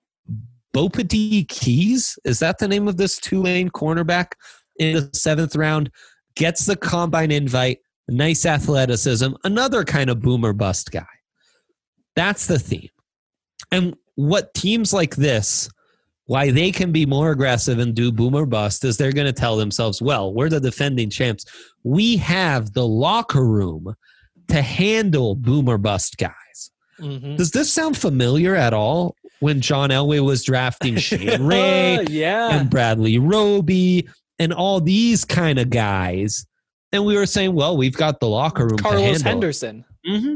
Bopati Keys, is that the name of this Tulane cornerback in the 7th round? Gets the combine invite, nice athleticism, another kind of boom or bust guy. That's the theme. And what teams like this, why they can be more aggressive and do boom or bust is they're going to tell themselves, well, we're the defending champs. We have the locker room to handle boom or bust guys. Does this sound familiar at all when John Elway was drafting Shane Ray and Bradley Roby and all these kind of guys? And we were saying, well, we've got the locker room Carlos to handle Henderson.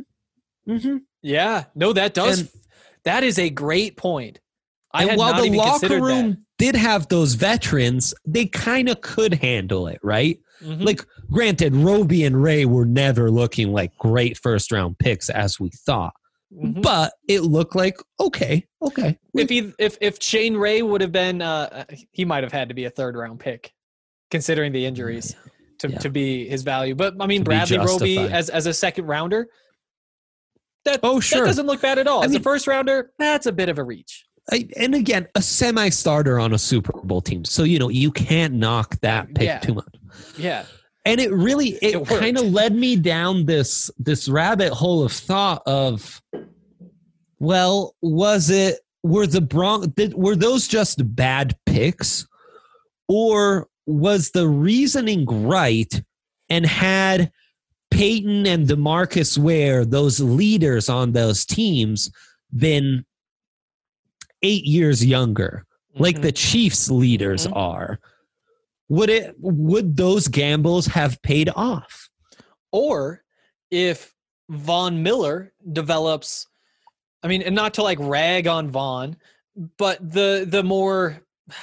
Yeah. No, that is a great point. And while the locker room did have those veterans, they kind of could handle it, right? Like, granted, Roby and Ray were never looking like great first-round picks as we thought. But it looked like, okay. If Shane Ray would have been, he might have had to be a 3rd-round pick, considering the injuries, to be his value. But, I mean, Bradley Roby as a 2nd-rounder, that doesn't look bad at all. As a 1st-rounder, that's a bit of a reach. And again, a semi-starter on a Super Bowl team. So, you can't knock that pick too much. Yeah. And it kind of led me down this rabbit hole of thought of, well, were those just bad picks? Or was the reasoning right, and had Peyton and DeMarcus Ware, those leaders on those teams, been 8 years younger, like the Chiefs leaders are, would those gambles have paid off? Or if Von Miller develops, I mean, and not to like rag on Von, but the more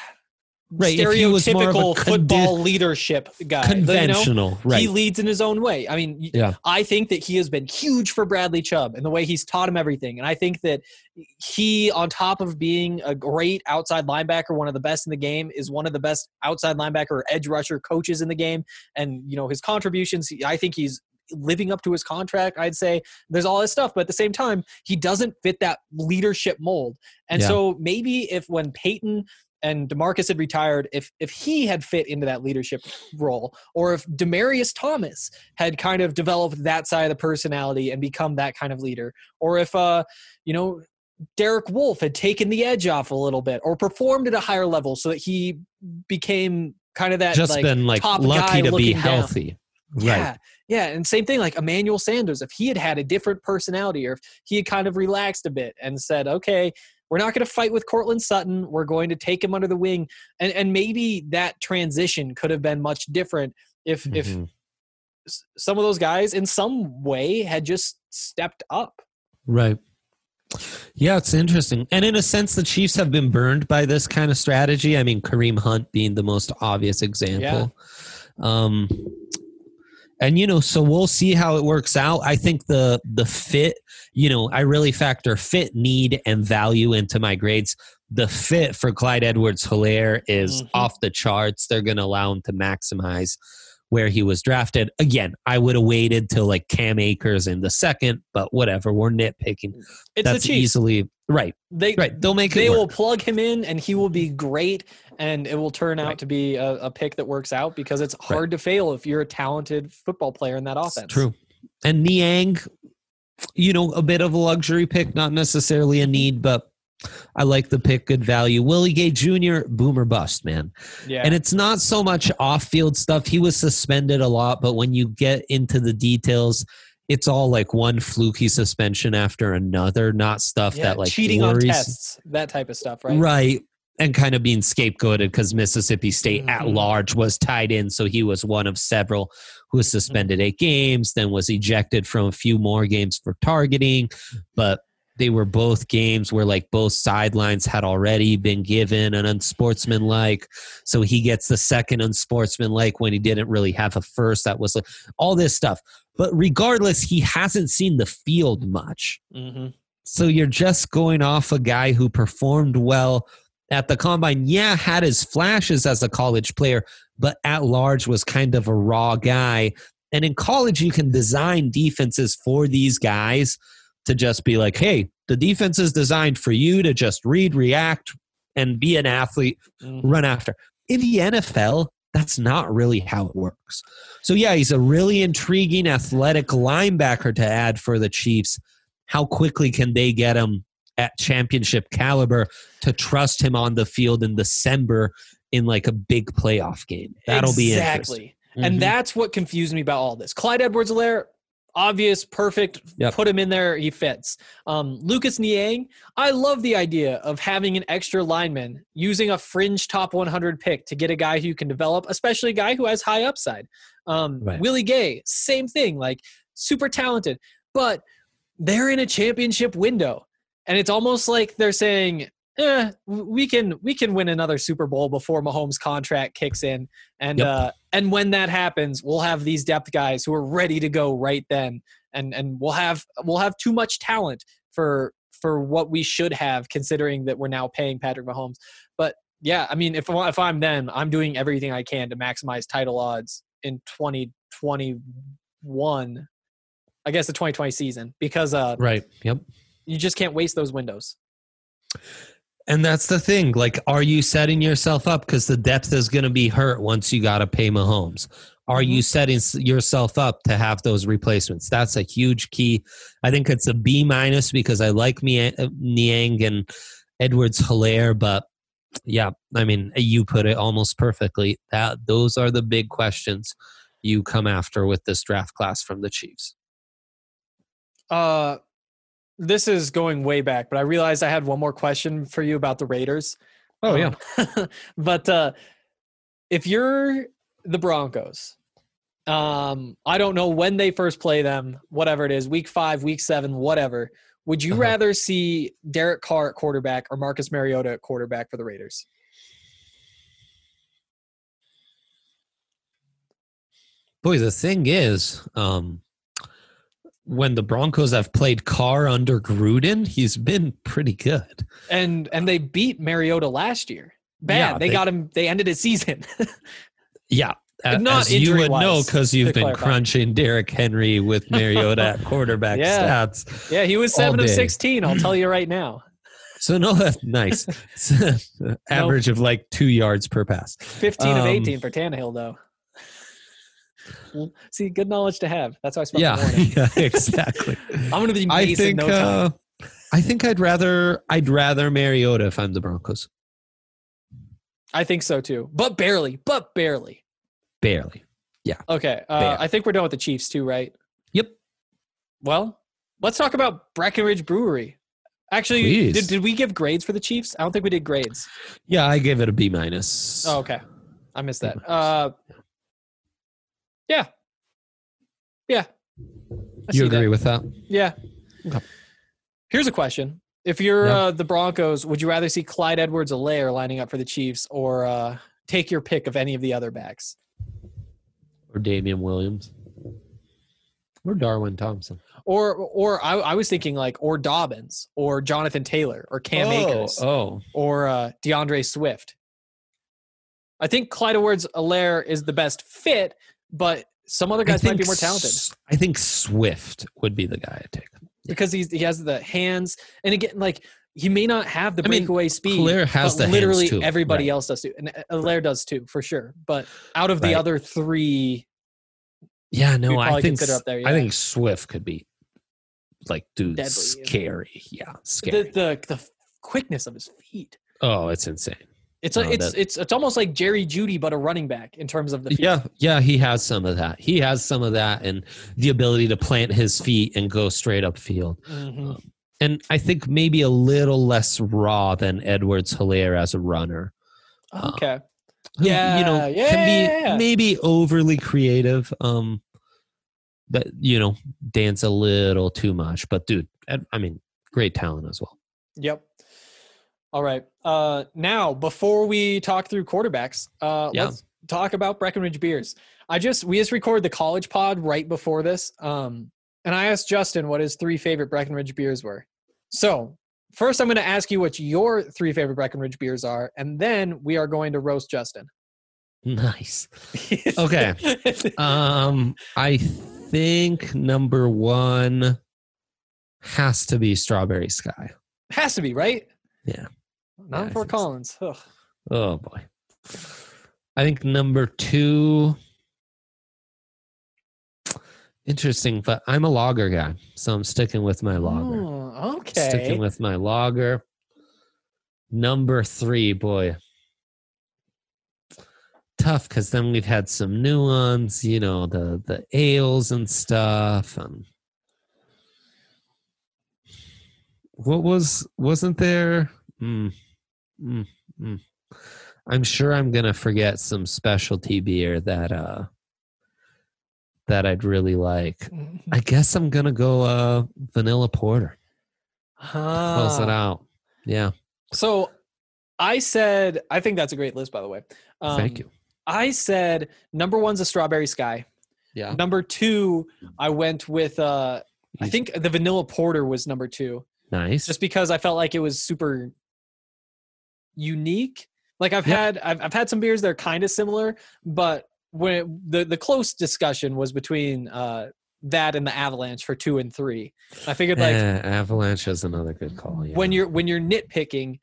stereotypical football leadership guy, conventional, right? He leads in his own way. I mean, I think that he has been huge for Bradley Chubb and the way he's taught him everything. And I think that he, on top of being a great outside linebacker, one of the best in the game, is one of the best outside linebacker or edge rusher coaches in the game. And, his contributions, I think he's living up to his contract. I'd say there's all this stuff, but at the same time, he doesn't fit that leadership mold. And so maybe when Peyton and DeMarcus had retired, if he had fit into that leadership role, or if Demaryius Thomas had kind of developed that side of the personality and become that kind of leader, or if Derek Wolfe had taken the edge off a little bit or performed at a higher level so that he became kind of that top lucky guy to be down. Healthy. Right. Yeah. And same thing like Emmanuel Sanders, if he had a different personality, or if he had kind of relaxed a bit and said, okay, we're not going to fight with Cortland Sutton, we're going to take him under the wing. And maybe that transition could have been much different if some of those guys in some way had just stepped up. Right. Yeah, it's interesting. And in a sense, the Chiefs have been burned by this kind of strategy. I mean, Kareem Hunt being the most obvious example. Yeah. And, so we'll see how it works out. I think the fit, I really factor fit, need, and value into my grades. The fit for Clyde Edwards-Helaire is off the charts. They're going to allow him to maximize where he was drafted. Again, I would have waited till like Cam Akers in the second, but whatever. We're nitpicking. That's the Chiefs. Easily right. They'll make it. They work. will plug him in, and he will be great, and it will turn out to be a pick that works out, because it's hard to fail if you're a talented football player in that offense. It's true. And Niang, a bit of a luxury pick, not necessarily a need, but I like the pick, good value. Willie Gay Jr., boomer bust, man. Yeah. And it's not so much off-field stuff. He was suspended a lot, but when you get into the details, it's all like one fluky suspension after another, not stuff that like cheating worries. On tests, that type of stuff, right? Right. And kind of being scapegoated because Mississippi State at large was tied in. So he was one of several who was suspended 8 games, then was ejected from a few more games for targeting. But they were both games where like both sidelines had already been given an unsportsmanlike. So he gets the second unsportsmanlike when he didn't really have a first. That was like all this stuff. But regardless, he hasn't seen the field much. So you're just going off a guy who performed well at the combine. Yeah, had his flashes as a college player, but at large was kind of a raw guy. And in college, you can design defenses for these guys to just be like, hey, the defense is designed for you to just read, react, and be an athlete, run after. In the NFL, that's not really how it works. So, yeah, he's a really intriguing athletic linebacker to add for the Chiefs. How quickly can they get him at championship caliber to trust him on the field in December in like a big playoff game? That'll be interesting. And that's what confused me about all this. Clyde Edwards-Helaire, obvious, perfect, put him in there, he fits. Lucas Niang, I love the idea of having an extra lineman, using a fringe top 100 pick to get a guy who can develop, especially a guy who has high upside. Willie Gay, same thing, like super talented, but they're in a championship window. And it's almost like they're saying, we can win another Super Bowl before Mahomes' contract kicks in. And and when that happens, we'll have these depth guys who are ready to go right then. And we'll have too much talent for what we should have, considering that we're now paying Patrick Mahomes. But yeah, I mean, if I'm them, I'm doing everything I can to maximize title odds in 2021. I guess the 2020 season, because you just can't waste those windows. And that's the thing. Like, are you setting yourself up? Because the depth is going to be hurt once you got to pay Mahomes. Are you setting yourself up to have those replacements? That's a huge key. I think it's a B- because I like Niang and Edwards-Helaire, but Yeah, I mean, you put it almost perfectly. Those are the big questions you come after with this draft class from the Chiefs. This is going way back, but I realized I had one more question for you about the Raiders. Oh, yeah. But if you're the Broncos, I don't know when they first play them, whatever it is, week 5, week 7, whatever. Would you rather see Derek Carr at quarterback or Marcus Mariota at quarterback for the Raiders? Boy, the thing is, when the Broncos have played Carr under Gruden, he's been pretty good. And they beat Mariota last year. Bad. Yeah, they got him. They ended his season. Yeah. Not as you would know, because you've been crunching Derrick Henry with Mariota at quarterback stats. Yeah, he was 7 of 16. I'll tell you right now. So no, that's nice. Average of like 2 yards per pass. 15 of 18 for Tannehill, though. See, good knowledge to have. That's how I spent the morning. Yeah, exactly. I'm going to be Mason in no time. I think I'd rather Mariota if I'm the Broncos. I think so too, but barely. Barely. Yeah. Okay. I think we're done with the Chiefs too, right? Yep. Well, let's talk about Breckenridge Brewery. Actually, did we give grades for the Chiefs? I don't think we did grades. Yeah, I gave it a B-. Oh, okay. I missed that. Yeah. You agree with that? Yeah. Okay. Here's a question. If you're the Broncos, would you rather see Clyde Edwards-Helaire lining up for the Chiefs or take your pick of any of the other backs? Or Damian Williams. Or Darwin Thompson. Or I was thinking or Dobbins or Jonathan Taylor or Cam Akers. Or DeAndre Swift. I think Clyde Edwards-Helaire is the best fit, but some other guys might be more talented. I think Swift would be the guy I'd take. Because he has the hands. And again, he may not have the breakaway speed. Helaire has the literally hands too. Everybody else does too. And Helaire does too, for sure. But out of the other three, I think consider up there. Yeah. I think Swift could be deadly, scary. Yeah, scary. The quickness of his feet. Oh, it's insane. It's almost like Jerry Jeudy, but a running back in terms of the feet. Yeah, he has some of that. He has some of that and the ability to plant his feet and go straight upfield. Mm-hmm. And I think maybe a little less raw than Edwards-Helaire as a runner. Okay. Can be maybe overly creative. That dance a little too much. But dude, great talent as well. Yep. All right. Now, before we talk through quarterbacks, let's talk about Breckenridge beers. We just recorded the college pod right before this. And I asked Justin what his 3 favorite Breckenridge beers were. So first I'm going to ask you what your 3 favorite Breckenridge beers are, and then we are going to roast Justin. Nice. Okay. I think number 1 has to be Strawberry Sky. Has to be, right? Yeah. Not for Collins. Ugh. Oh, boy. I think number 2... Interesting, but I'm a lager guy, so I'm sticking with my lager. Oh, okay. Sticking with my lager. Number 3, boy. Tough, because then we've had some new ones, the ales and stuff. Wasn't there? I'm sure I'm going to forget some specialty beer that I'd really like. I guess I'm going to go vanilla porter. Close it out. Yeah. So I think that's a great list, by the way. Thank you. I said number 1's a Strawberry Sky. Yeah. Number 2, I went with, I think the vanilla porter was number 2. Nice. Just because I felt like it was super unique. I've had some beers that are kind of similar, but when the close discussion was between that and the Avalanche for 2 and 3. I figured Avalanche is another good call. Yeah. When you're nitpicking,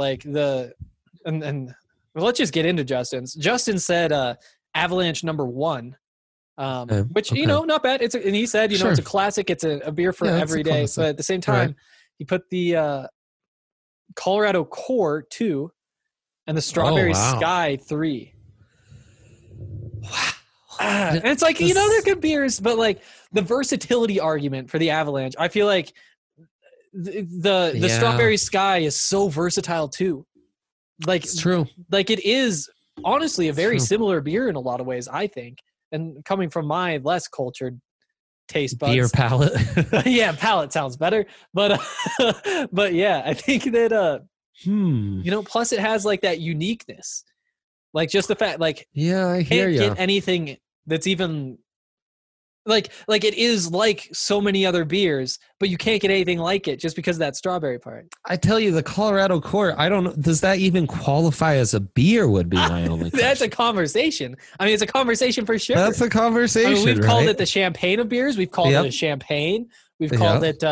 well, let's just get into Justin's. Justin said Avalanche number 1, which not bad. And he said it's a classic. It's a beer for every day. But at the same time, he put the Colorado Core 2. and the Strawberry wow. Sky 3. Wow. And it's like, they're good beers, but like the versatility argument for the Avalanche, I feel like the Strawberry Sky is so versatile too. Like It's true. Like it is honestly a very similar beer in a lot of ways, I think. And coming from my less cultured taste buds. Beer palate. Yeah, palate sounds better. But but yeah, I think that plus it has like that uniqueness. Like just the fact like yeah, I hear you. Can't get anything that's even like it is like so many other beers, but you can't get anything like it just because of that strawberry part. I tell you, the Colorado Core, I don't know, does that even qualify as a beer would be my only question. That's a conversation. I mean, it's a conversation for sure. That's a conversation, I mean, we've called it the champagne of beers. We've called it a champagne. We've called it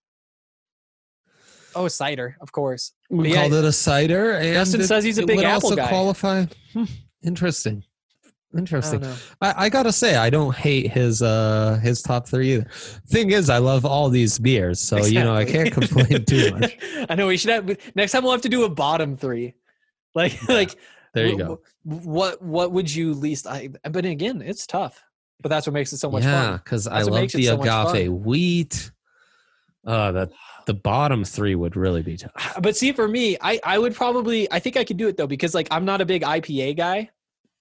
cider, of course. We called it a cider. And Justin says he's a big apple guy. Qualify. Interesting. I gotta say, I don't hate his top 3 either. Thing is, I love all these beers, so exactly. I can't complain too much. I know we should have next time. We'll have to do a bottom 3. Like there you go. What would you least? But again, it's tough. But that's what makes it so much fun. Yeah, because I love the agave wheat. The bottom 3 would really be tough. But see, for me, I would probably, I think I could do it though, because like I'm not a big IPA guy.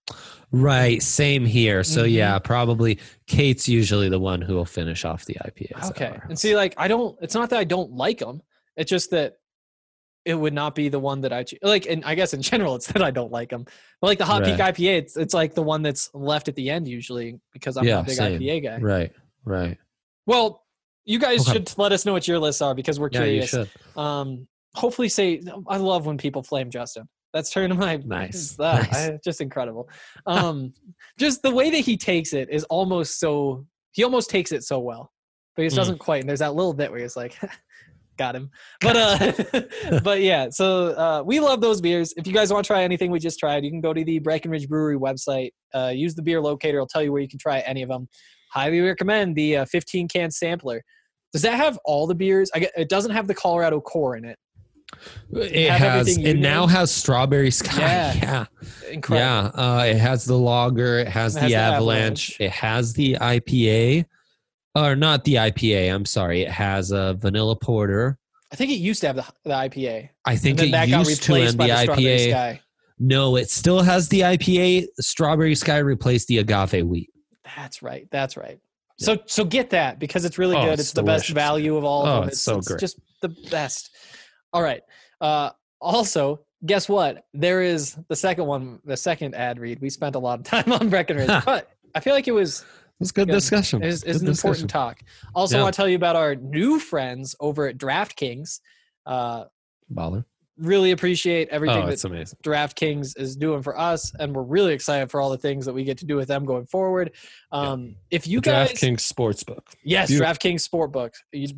Right, same here. So yeah, probably Kate's usually the one who will finish off the IPAs. Okay, and see, like it's not that I don't like them. It's just that it would not be the one that I like. And I guess in general, it's that I don't like them. But like the Hot Peak IPA, it's like the one that's left at the end usually because I'm not a big IPA guy. Right. Well, you guys should let us know what your lists are because we're curious. Yeah, you should. Hopefully, I love when people flame Justin. That's turning my nice. Just incredible. Just the way that he takes it is almost so. He almost takes it so well, but he just doesn't quite. And there's that little bit where he's like, "Got him." But but yeah. So we love those beers. If you guys want to try anything we just tried, you can go to the Breckenridge Brewery website. Use the beer locator. It'll tell you where you can try any of them. Highly recommend the 15 can sampler. Does that have all the beers? It doesn't have the Colorado Core in it. It has. It now has Strawberry Sky. Yeah. Incredible. Yeah. It has the lager. It has the Avalanche. It has the IPA. Or not the IPA. I'm sorry. It has a vanilla porter. I think it used to have the IPA. I think it used to, and the IPA. Sky. No, it still has the IPA. Strawberry Sky replaced the agave wheat. That's right. Yeah. So get that because it's really good. It's the best value of all of them. It's so great. It's just the best. All right. Also, guess what? There is the second ad read. We spent a lot of time on Breckenridge, but I feel like it was good discussion. It's an important talk. Also, I want to tell you about our new friends over at DraftKings. Baller. Really appreciate everything that amazing. DraftKings is doing for us, and we're really excited for all the things that we get to do with them going forward. If you guys DraftKings Sportsbook, yes, DraftKings Sportsbook.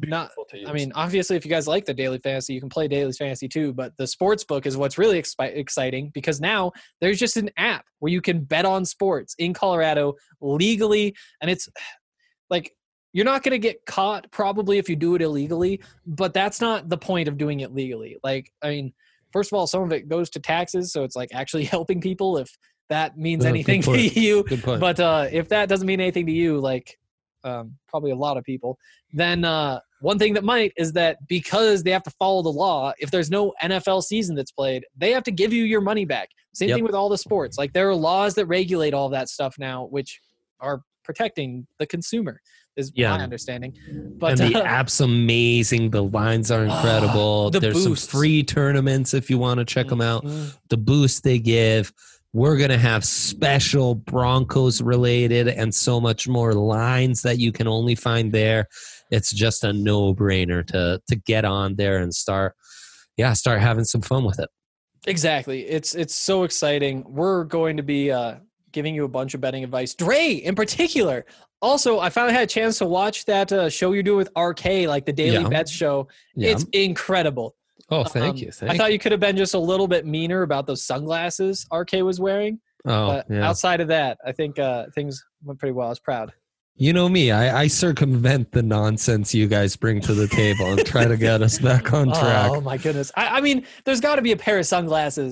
I mean, obviously, if you guys like the daily fantasy, you can play daily fantasy too. But the Sportsbook is what's really exciting because now there's just an app where you can bet on sports in Colorado legally, and it's like. You're not going to get caught probably if you do it illegally, but that's not the point of doing it legally. Like, I mean, first of all, some of it goes to taxes, so it's like actually helping people if that means anything to you. Good point. But if that doesn't mean anything to you, like probably a lot of people, then one thing that might is that because they have to follow the law, if there's no NFL season that's played, they have to give you your money back. Same thing with all the sports. Like there are laws that regulate all that stuff now, which are protecting the consumer. Is my understanding. But and the app's amazing. The lines are incredible. There's some free tournaments if you want to check them out. The boost they give. We're going to have special Broncos related and so much more lines that you can only find there. It's just a no-brainer to get on there and start having some fun with it. Exactly. It's so exciting. We're going to be giving you a bunch of betting advice. Dre, in particular. Also, I finally had a chance to watch that show you're doing with RK, like the Daily Bets show. Yeah. It's incredible. Oh, thank you. I thought you could have been just a little bit meaner about those sunglasses RK was wearing. But outside of that, I think things went pretty well. I was proud. You know me. I circumvent the nonsense you guys bring to the table and try to get us back on track. Oh, my goodness. I mean, there's got to be a pair of sunglasses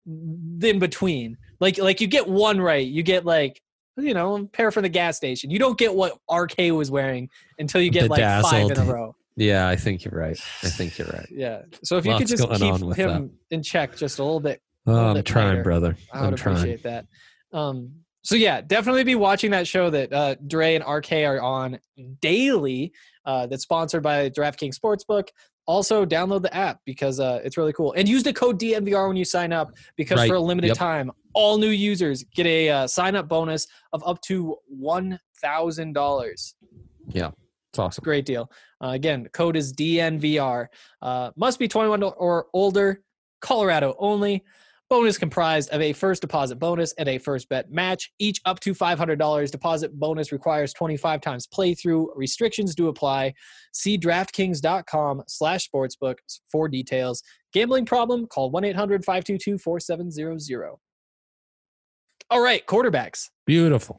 in between. Like you get one right. You get like, a pair from the gas station. You don't get what RK was wearing until you get like Bedazzled. 5 in a row. Yeah, I think you're right. Yeah. So if you could just keep him in check just a little bit. I'm trying, brother. I would appreciate that. So yeah, definitely be watching that show that Dre and RK are on daily. That's sponsored by DraftKings Sportsbook. Also, download the app because it's really cool. And use the code DNVR when you sign up because for a limited time, all new users get a sign-up bonus of up to $1,000. Yeah, it's awesome. Great deal. Again, code is DNVR. Must be 21 or older. Colorado only. Bonus comprised of a first deposit bonus and a first bet match. Each up to $500 deposit bonus requires 25 times playthrough. Restrictions do apply. See DraftKings.com/sportsbook for details. Gambling problem? Call 1-800-522-4700. All right, quarterbacks. Beautiful.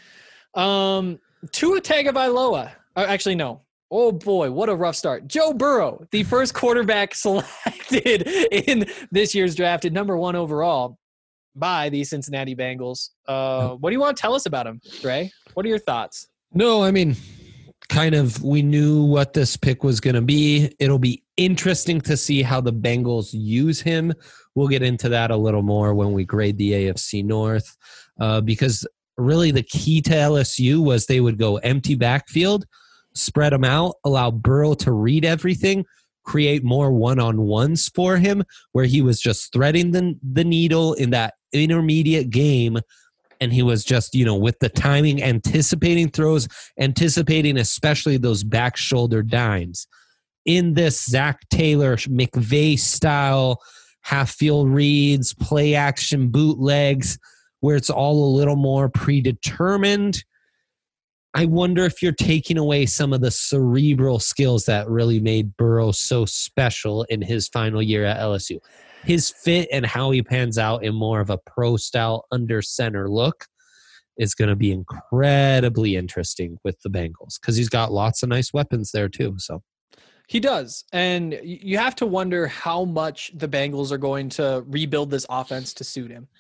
Tua Tagovailoa. Actually, no. Oh boy, what a rough start. Joe Burrow, the first quarterback selected in this year's draft at number 1 overall by the Cincinnati Bengals. What do you want to tell us about him, Dre? What are your thoughts? No, I mean, kind of we knew what this pick was going to be. It'll be interesting to see how the Bengals use him. We'll get into that a little more when we grade the AFC North because really the key to LSU was they would go empty backfield, spread them out, allow Burrow to read everything, create more one-on-ones for him where he was just threading the needle in that intermediate game, and he was just, with the timing, anticipating throws, anticipating especially those back shoulder dimes. In this Zach Taylor, McVay-style half-field reads, play-action bootlegs, where it's all a little more predetermined, I wonder if you're taking away some of the cerebral skills that really made Burrow so special in his final year at LSU. His fit and how he pans out in more of a pro-style under center look is going to be incredibly interesting with the Bengals because he's got lots of nice weapons there too. So he does. And you have to wonder how much the Bengals are going to rebuild this offense to suit him.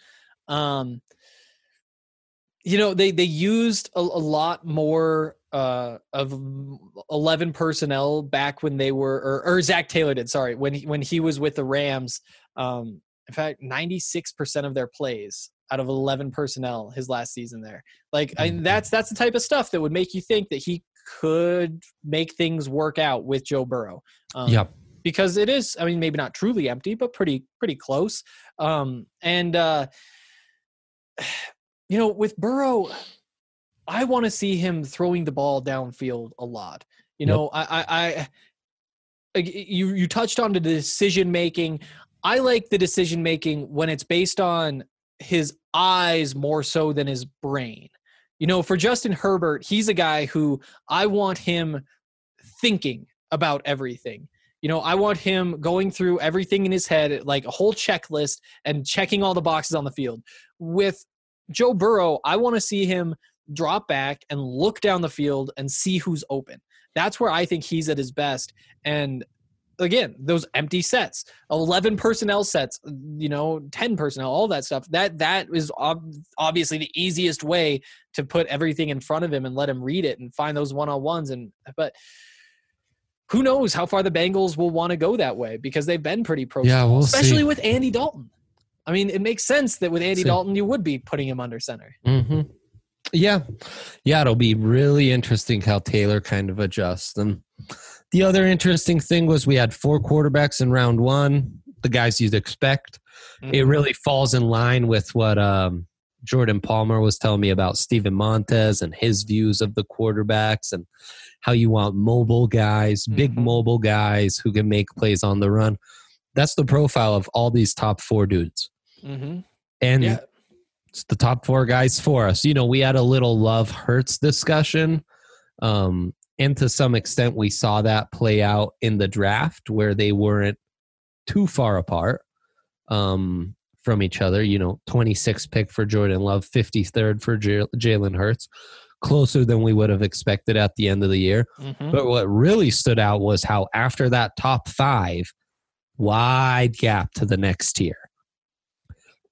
They used a lot more of 11 personnel back when they were, or Zach Taylor did, sorry, when he was with the Rams. In fact, 96% of their plays out of 11 personnel his last season there. That's the type of stuff that would make you think that he could make things work out with Joe Burrow. Because it is, maybe not truly empty, but pretty close. With Burrow, I want to see him throwing the ball downfield a lot. You touched on the decision making. I like the decision making when it's based on his eyes more so than his brain. For Justin Herbert, he's a guy who I want him thinking about everything. I want him going through everything in his head, like a whole checklist and checking all the boxes on the field. With Joe Burrow, I want to see him drop back and look down the field and see who's open. That's where I think he's at his best. And again, those empty sets, 11 personnel sets, 10 personnel, all that stuff, that is obviously the easiest way to put everything in front of him and let him read it and find those one-on-ones. But who knows how far the Bengals will want to go that way because they've been pretty pro, especially with Andy Dalton. It makes sense that with Andy Dalton, you would be putting him under center. Mm-hmm. Yeah, it'll be really interesting how Taylor kind of adjusts. And the other interesting thing was we had 4 quarterbacks in round 1, the guys you'd expect. Mm-hmm. It really falls in line with what Jordan Palmer was telling me about Steven Montez and his views of the quarterbacks and how you want mobile guys, big mobile guys who can make plays on the run. That's the profile of all these top 4 dudes. Mm-hmm. And it's the top 4 guys for us. We had a little Love Hurts discussion. And to some extent, we saw that play out in the draft where they weren't too far apart from each other. 26th pick for Jordan Love, 53rd for Jalen Hurts. Closer than we would have expected at the end of the year. Mm-hmm. But what really stood out was how after that top 5, wide gap to the next tier.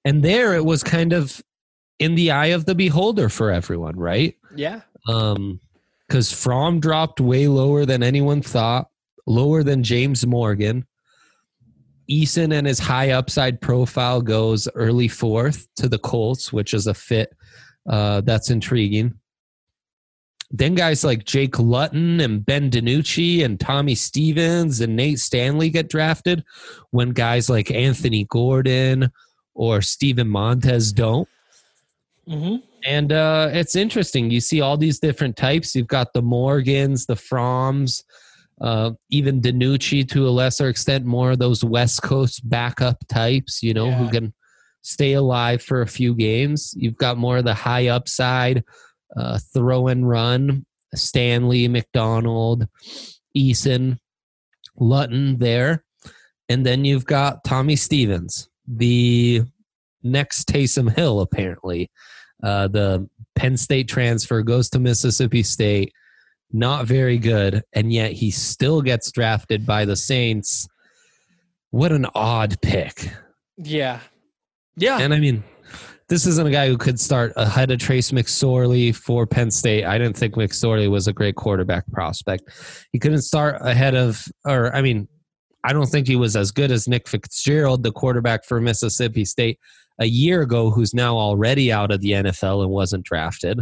And there it was kind of in the eye of the beholder for everyone, right? Yeah. Because Fromm dropped way lower than anyone thought, lower than James Morgan. Eason and his high upside profile goes early 4th to the Colts, which is a fit that's intriguing. Then guys like Jake Luton and Ben DiNucci and Tommy Stevens and Nate Stanley get drafted when guys like Anthony Gordon or Steven Montez don't. Mm-hmm. And it's interesting. You see all these different types. You've got the Morgans, the Fromms, even DiNucci to a lesser extent, more of those West Coast backup types, you know, who can stay alive for a few games. You've got more of the high upside, throw and run, Stanley, McDonald, Eason, Luton there. And then you've got Tommy Stevens, the next Taysom Hill, apparently. The Penn State transfer goes to Mississippi State. Not very good, and yet he still gets drafted by the Saints. What an odd pick. Yeah. Yeah. And I mean, this isn't a guy who could start ahead of Trace McSorley for Penn State. I didn't think McSorley was a great quarterback prospect. He couldn't start ahead of, or I mean, I don't think he was as good as Nick Fitzgerald, the quarterback for Mississippi State a year ago, who's now already out of the NFL and wasn't drafted.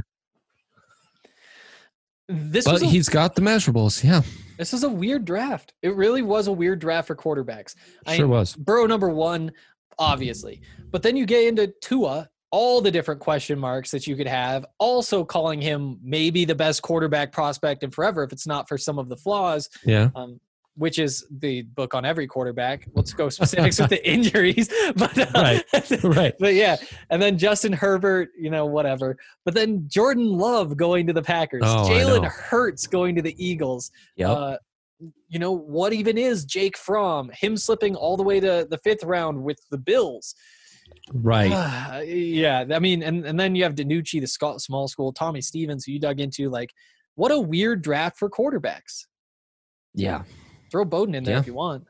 But he's got the measurables, yeah. This is a weird draft. It really was a weird draft for quarterbacks. Sure was. Burrow number 1, obviously. But then you get into Tua, all the different question marks that you could have, also calling him maybe the best quarterback prospect in forever if it's not for some of the flaws. Yeah. Which is the book on every quarterback. Let's go specifics with the injuries. But, right. But yeah, and then Justin Herbert, you know, whatever. But then Jordan Love going to the Packers. Jalen Hurts going to the Eagles. Yep. You know, what even is Jake Fromm? Him slipping all the way to the 5th round with the Bills. Right. Yeah, I mean, and then you have DiNucci, the small school, Tommy Stevens, who you dug into. Like, what a weird draft for quarterbacks. Yeah. Throw Bowden in there if you want.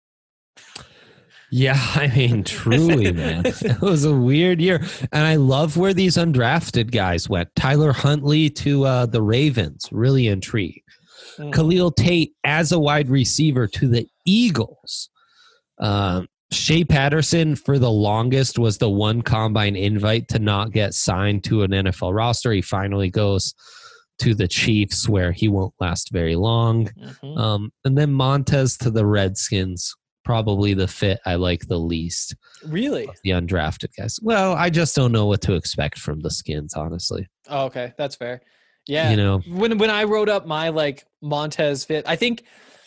Yeah, I mean, truly, man. It was a weird year. And I love where these undrafted guys went. Tyler Huntley to the Ravens, really intrigued. Khalil Tate as a wide receiver to the Eagles. Shea Patterson, for the longest, was the one combine invite to not get signed to an NFL roster. He finally goes to the Chiefs, where he won't last very long. Mm-hmm. And then Montez to the Redskins, probably the fit I like the least. Really? The undrafted guys. Well, I just don't know what to expect from the Skins, honestly. Oh, okay. That's fair. Yeah. You know, when I wrote up my like Montez fit, I think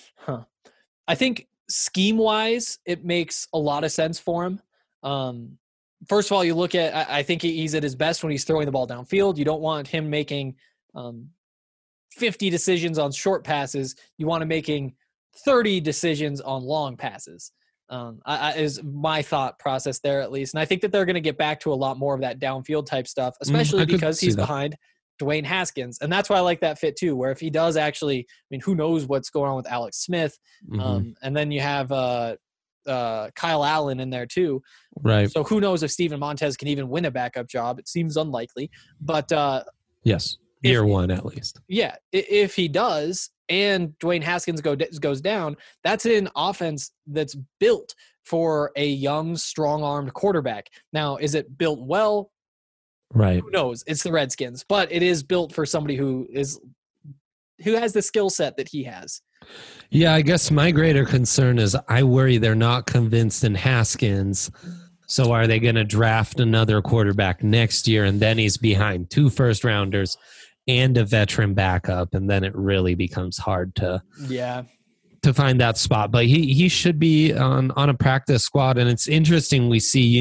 scheme wise, it makes a lot of sense for him. First of all, you look at, I think he's at his best when he's throwing the ball downfield. You don't want him making 50 decisions on short passes. You want him making 30 decisions on long passes. Is my thought process there, at least. And I think that they're going to get back to a lot more of that downfield type stuff, especially because he's behind Dwayne Haskins. And that's why I like that fit too, where if he does actually, I mean, who knows what's going on with Alex Smith. And then you have Kyle Allen in there too. Right. So who knows if Steven Montez can even win a backup job. It seems unlikely, but yes. Year one, at least. Yeah. If he does, and Dwayne Haskins goes down, that's an offense that's built for a young, strong-armed quarterback. Now, is it built well? Right. Who knows? It's the Redskins, but it is built for somebody who has the skill set that he has. Yeah, I guess my greater concern is I worry they're not convinced in Haskins. So are they going to draft another quarterback next year, and then he's behind 2 first-rounders and a veteran backup, and then it really becomes hard to find that spot. But he should be on a practice squad, and it's interesting we see,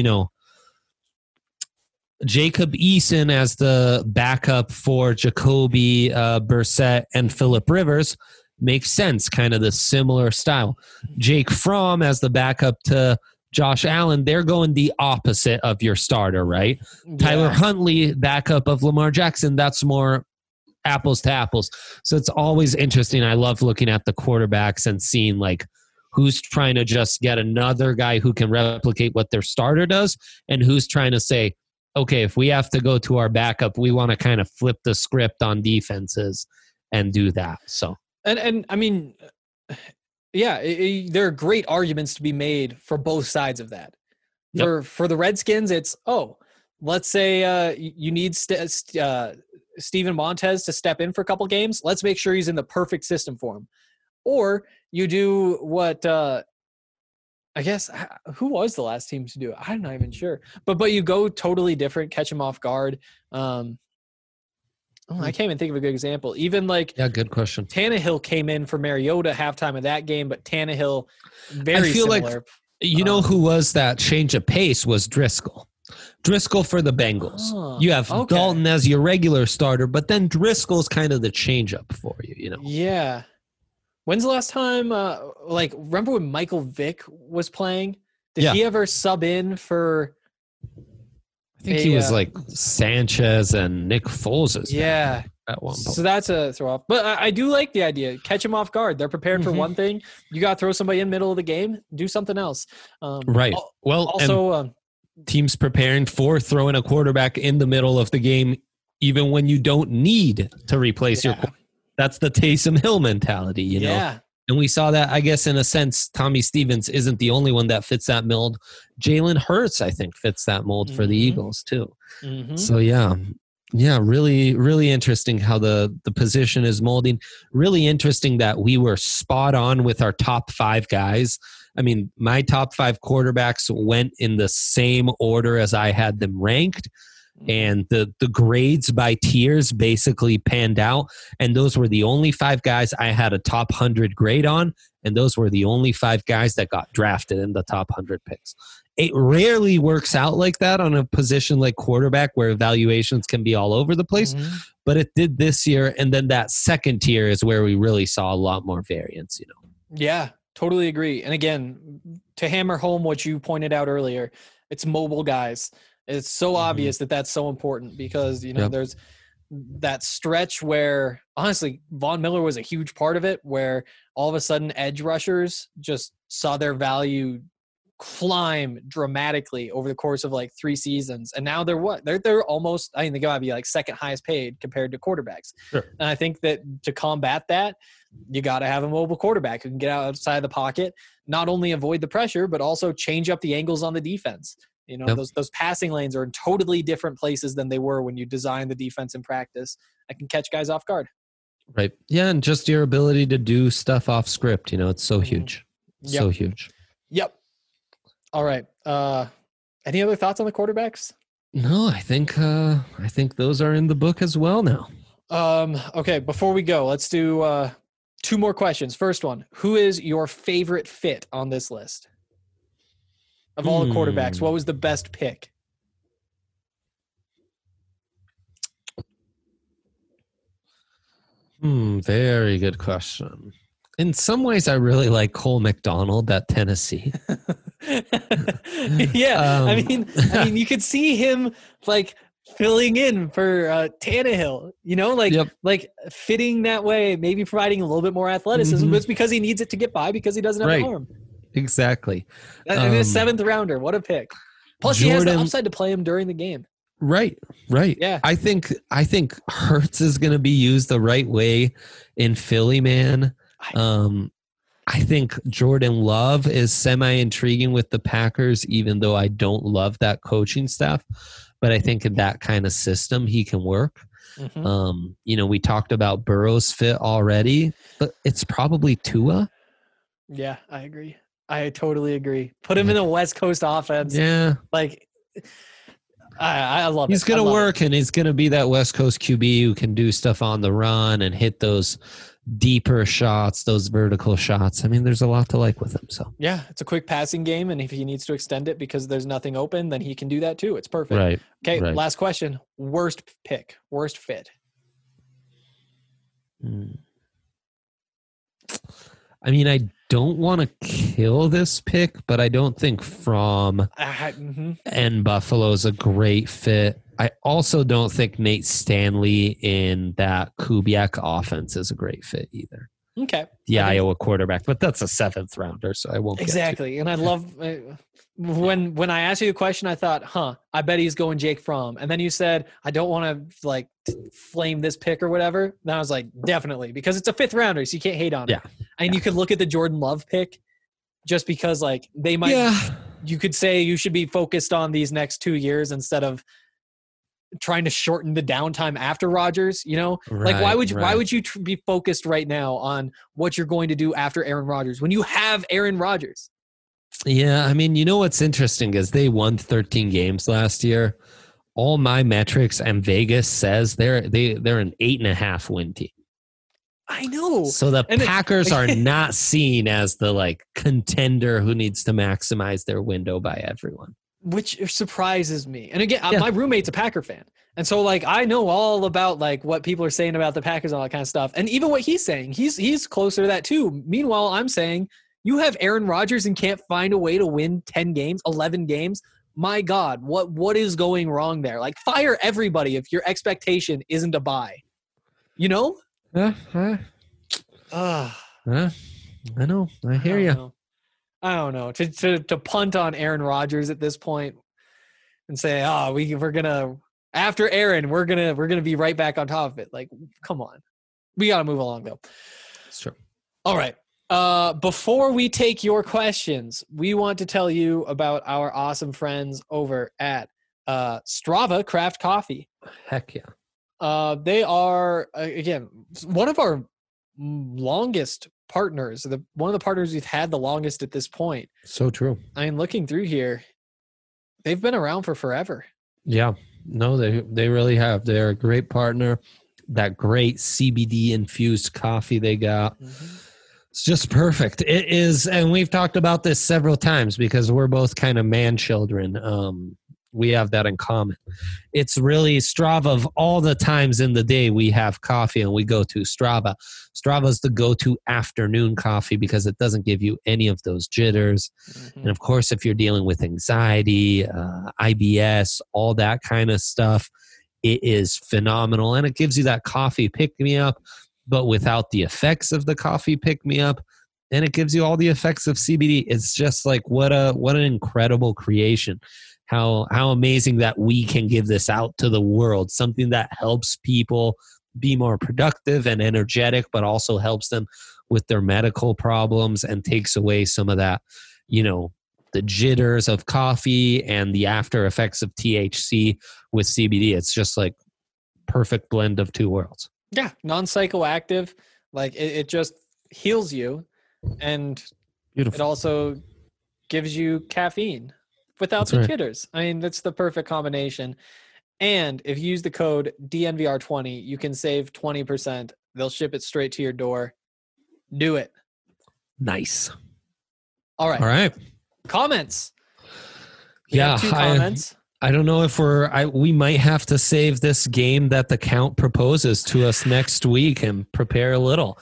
Jacob Eason as the backup for Jacoby Brissett and Phillip Rivers makes sense, kind of the similar style. Jake Fromm as the backup to Josh Allen, they're going the opposite of your starter, right? Yeah. Tyler Huntley, backup of Lamar Jackson, that's more apples to apples. So it's always interesting. I love looking at the quarterbacks and seeing like who's trying to just get another guy who can replicate what their starter does, and who's trying to say, okay, if we have to go to our backup, we want to kind of flip the script on defenses and do that. So, and I mean, yeah, there are great arguments to be made for both sides of that. For the Redskins, it's, let's say you need Steven Montez to step in for a couple games. Let's make sure he's in the perfect system for him. Or you do what I guess, who was the last team to do it? I'm not even sure. But you go totally different, catch him off guard. I can't even think of a good example. Even good question. Tannehill came in for Mariota halftime of that game, but Tannehill very similar. You know who was that change of pace was Driscoll. Driscoll for the Bengals. You have Dalton as your regular starter, but then Driscoll's kind of the change up for you, you know? Yeah. When's the last time, remember when Michael Vick was playing? Did he ever sub in for... I think he was like Sanchez and Nick Foles. At one point. So that's a throw off. But I do like the idea. Catch him off guard. They're prepared for one thing. You got to throw somebody in the middle of the game. Do something else. Right. Well, also... teams preparing for throwing a quarterback in the middle of the game, even when you don't need to replace your quarterback. That's the Taysom Hill mentality, you know? Yeah. And we saw that, I guess, in a sense, Tommy Stevens isn't the only one that fits that mold. Jalen Hurts, I think, fits that mold for the Eagles, too. So, yeah, really, really interesting how the position is molding. Really interesting that we were spot on with our top 5 guys. I mean, my top 5 quarterbacks went in the same order as I had them ranked. And the grades by tiers basically panned out. And those were the only 5 guys I had a top 100 grade on. And those were the only 5 guys that got drafted in the top 100 picks. It rarely works out like that on a position like quarterback where evaluations can be all over the place. But it did this year. And then that second tier is where we really saw a lot more variance, you know? Yeah, totally agree. And again, to hammer home what you pointed out earlier, it's mobile guys. It's so obvious that that's so important because, you know, there's that stretch where, honestly, Von Miller was a huge part of it, where all of a sudden edge rushers just saw their value climb dramatically over the course of like 3 seasons. And now they're almost, I mean, they gotta be like second highest paid compared to quarterbacks. Sure. And I think that to combat that, you got to have a mobile quarterback who can get outside the pocket, not only avoid the pressure, but also change up the angles on the defense. You know, those passing lanes are in totally different places than they were when you design the defense in practice. I can catch guys off guard. Right. Yeah, and just your ability to do stuff off script, you know, it's so huge. So huge. Yep. All right. Any other thoughts on the quarterbacks? No, I think those are in the book as well now. Okay, before we go, let's do 2 more questions. First one, who is your favorite fit on this list? Of all the quarterbacks, what was the best pick? Very good question. In some ways, I really like Cole McDonald at Tennessee. I mean, you could see him like filling in for Tannehill, you know, like fitting that way, maybe providing a little bit more athleticism. But it's because he needs it to get by because he doesn't have an arm. Exactly. And a 7th rounder. What a pick. Plus, he has the upside to play him during the game. Right. Yeah. I think Hurts is going to be used the right way in Philly, man. I think Jordan Love is semi-intriguing with the Packers, even though I don't love that coaching staff. But I think in that kind of system, he can work. You know, we talked about Burrow's fit already, but it's probably Tua. Yeah, I agree. I totally agree. Put him in a West Coast offense. Yeah. Like, I love it. He's going to work, and he's going to be that West Coast QB who can do stuff on the run and hit those deeper shots, those vertical shots. I mean, there's a lot to like with him. So yeah, it's a quick passing game, and if he needs to extend it because there's nothing open, then he can do that too. It's perfect. Right. Okay, last question. Worst pick, worst fit. I mean, I don't want to kill this pick, but I don't think Fromm and Buffalo's a great fit. I also don't think Nate Stanley in that Kubiak offense is a great fit either. Okay. the Iowa quarterback, but that's a 7th rounder, so I won't Exactly. And I love when I asked you the question, I thought, I bet he's going Jake Fromm. And then you said, I don't want to like flame this pick or whatever. Then I was like, definitely, because it's a 5th rounder, so you can't hate on it. And you could look at the Jordan Love pick just because like they might, you could say you should be focused on these next 2 years instead of trying to shorten the downtime after Rodgers, like why would you be focused right now on what you're going to do after Aaron Rodgers when you have Aaron Rodgers? Yeah, I mean, what's interesting is they won 13 games last year. All my metrics and Vegas says they're an 8.5 win team. I know. So the Packers are not seen as the like contender who needs to maximize their window by everyone, which surprises me. And again, my roommate's a Packer fan, and so like I know all about like what people are saying about the Packers and all that kind of stuff, and even what he's saying, he's closer to that too. Meanwhile, I'm saying, you have Aaron Rodgers and can't find a way to win 10 games, 11 games. My God, what is going wrong there? Like, fire everybody if your expectation isn't a buy. I know. I hear you. I don't know. To punt on Aaron Rodgers at this point and say, we're gonna after Aaron, we're gonna be right back on top of it. Like, come on. We gotta move along though. That's true. All right. Before we take your questions, we want to tell you about our awesome friends over at Strava Craft Coffee. Heck yeah. They are, again, one of our longest partners, one of the partners we've had the longest at this point. So true. I mean, looking through here, they've been around for forever. Yeah. No, they really have. They're a great partner. That great CBD infused coffee they got. Mm-hmm. It's just perfect. It is, and we've talked about this several times because we're both kind of man children. We have that in common. It's really Strava of all the times in the day we have coffee and we go to Strava. Strava's the go-to afternoon coffee because it doesn't give you any of those jitters. Mm-hmm. And of course, if you're dealing with anxiety, IBS, all that kind of stuff, it is phenomenal. And it gives you that coffee pick-me-up, but without the effects of the coffee pick-me-up. And it gives you all the effects of CBD. It's just like what an incredible creation. How amazing that we can give this out to the world, something that helps people be more productive and energetic, but also helps them with their medical problems and takes away some of that, the jitters of coffee and the after effects of THC with CBD. It's just like perfect blend of two worlds. Yeah, non-psychoactive, like it just heals you, and Beautiful. It also gives you caffeine without the jitters. I mean, that's the perfect combination. And if you use the code DNVR20, you can save 20%. They'll ship it straight to your door. Do it. Nice. All right. Comments. We have 2 comments. I don't know if we might have to save this game that the count proposes to us next week and prepare a little.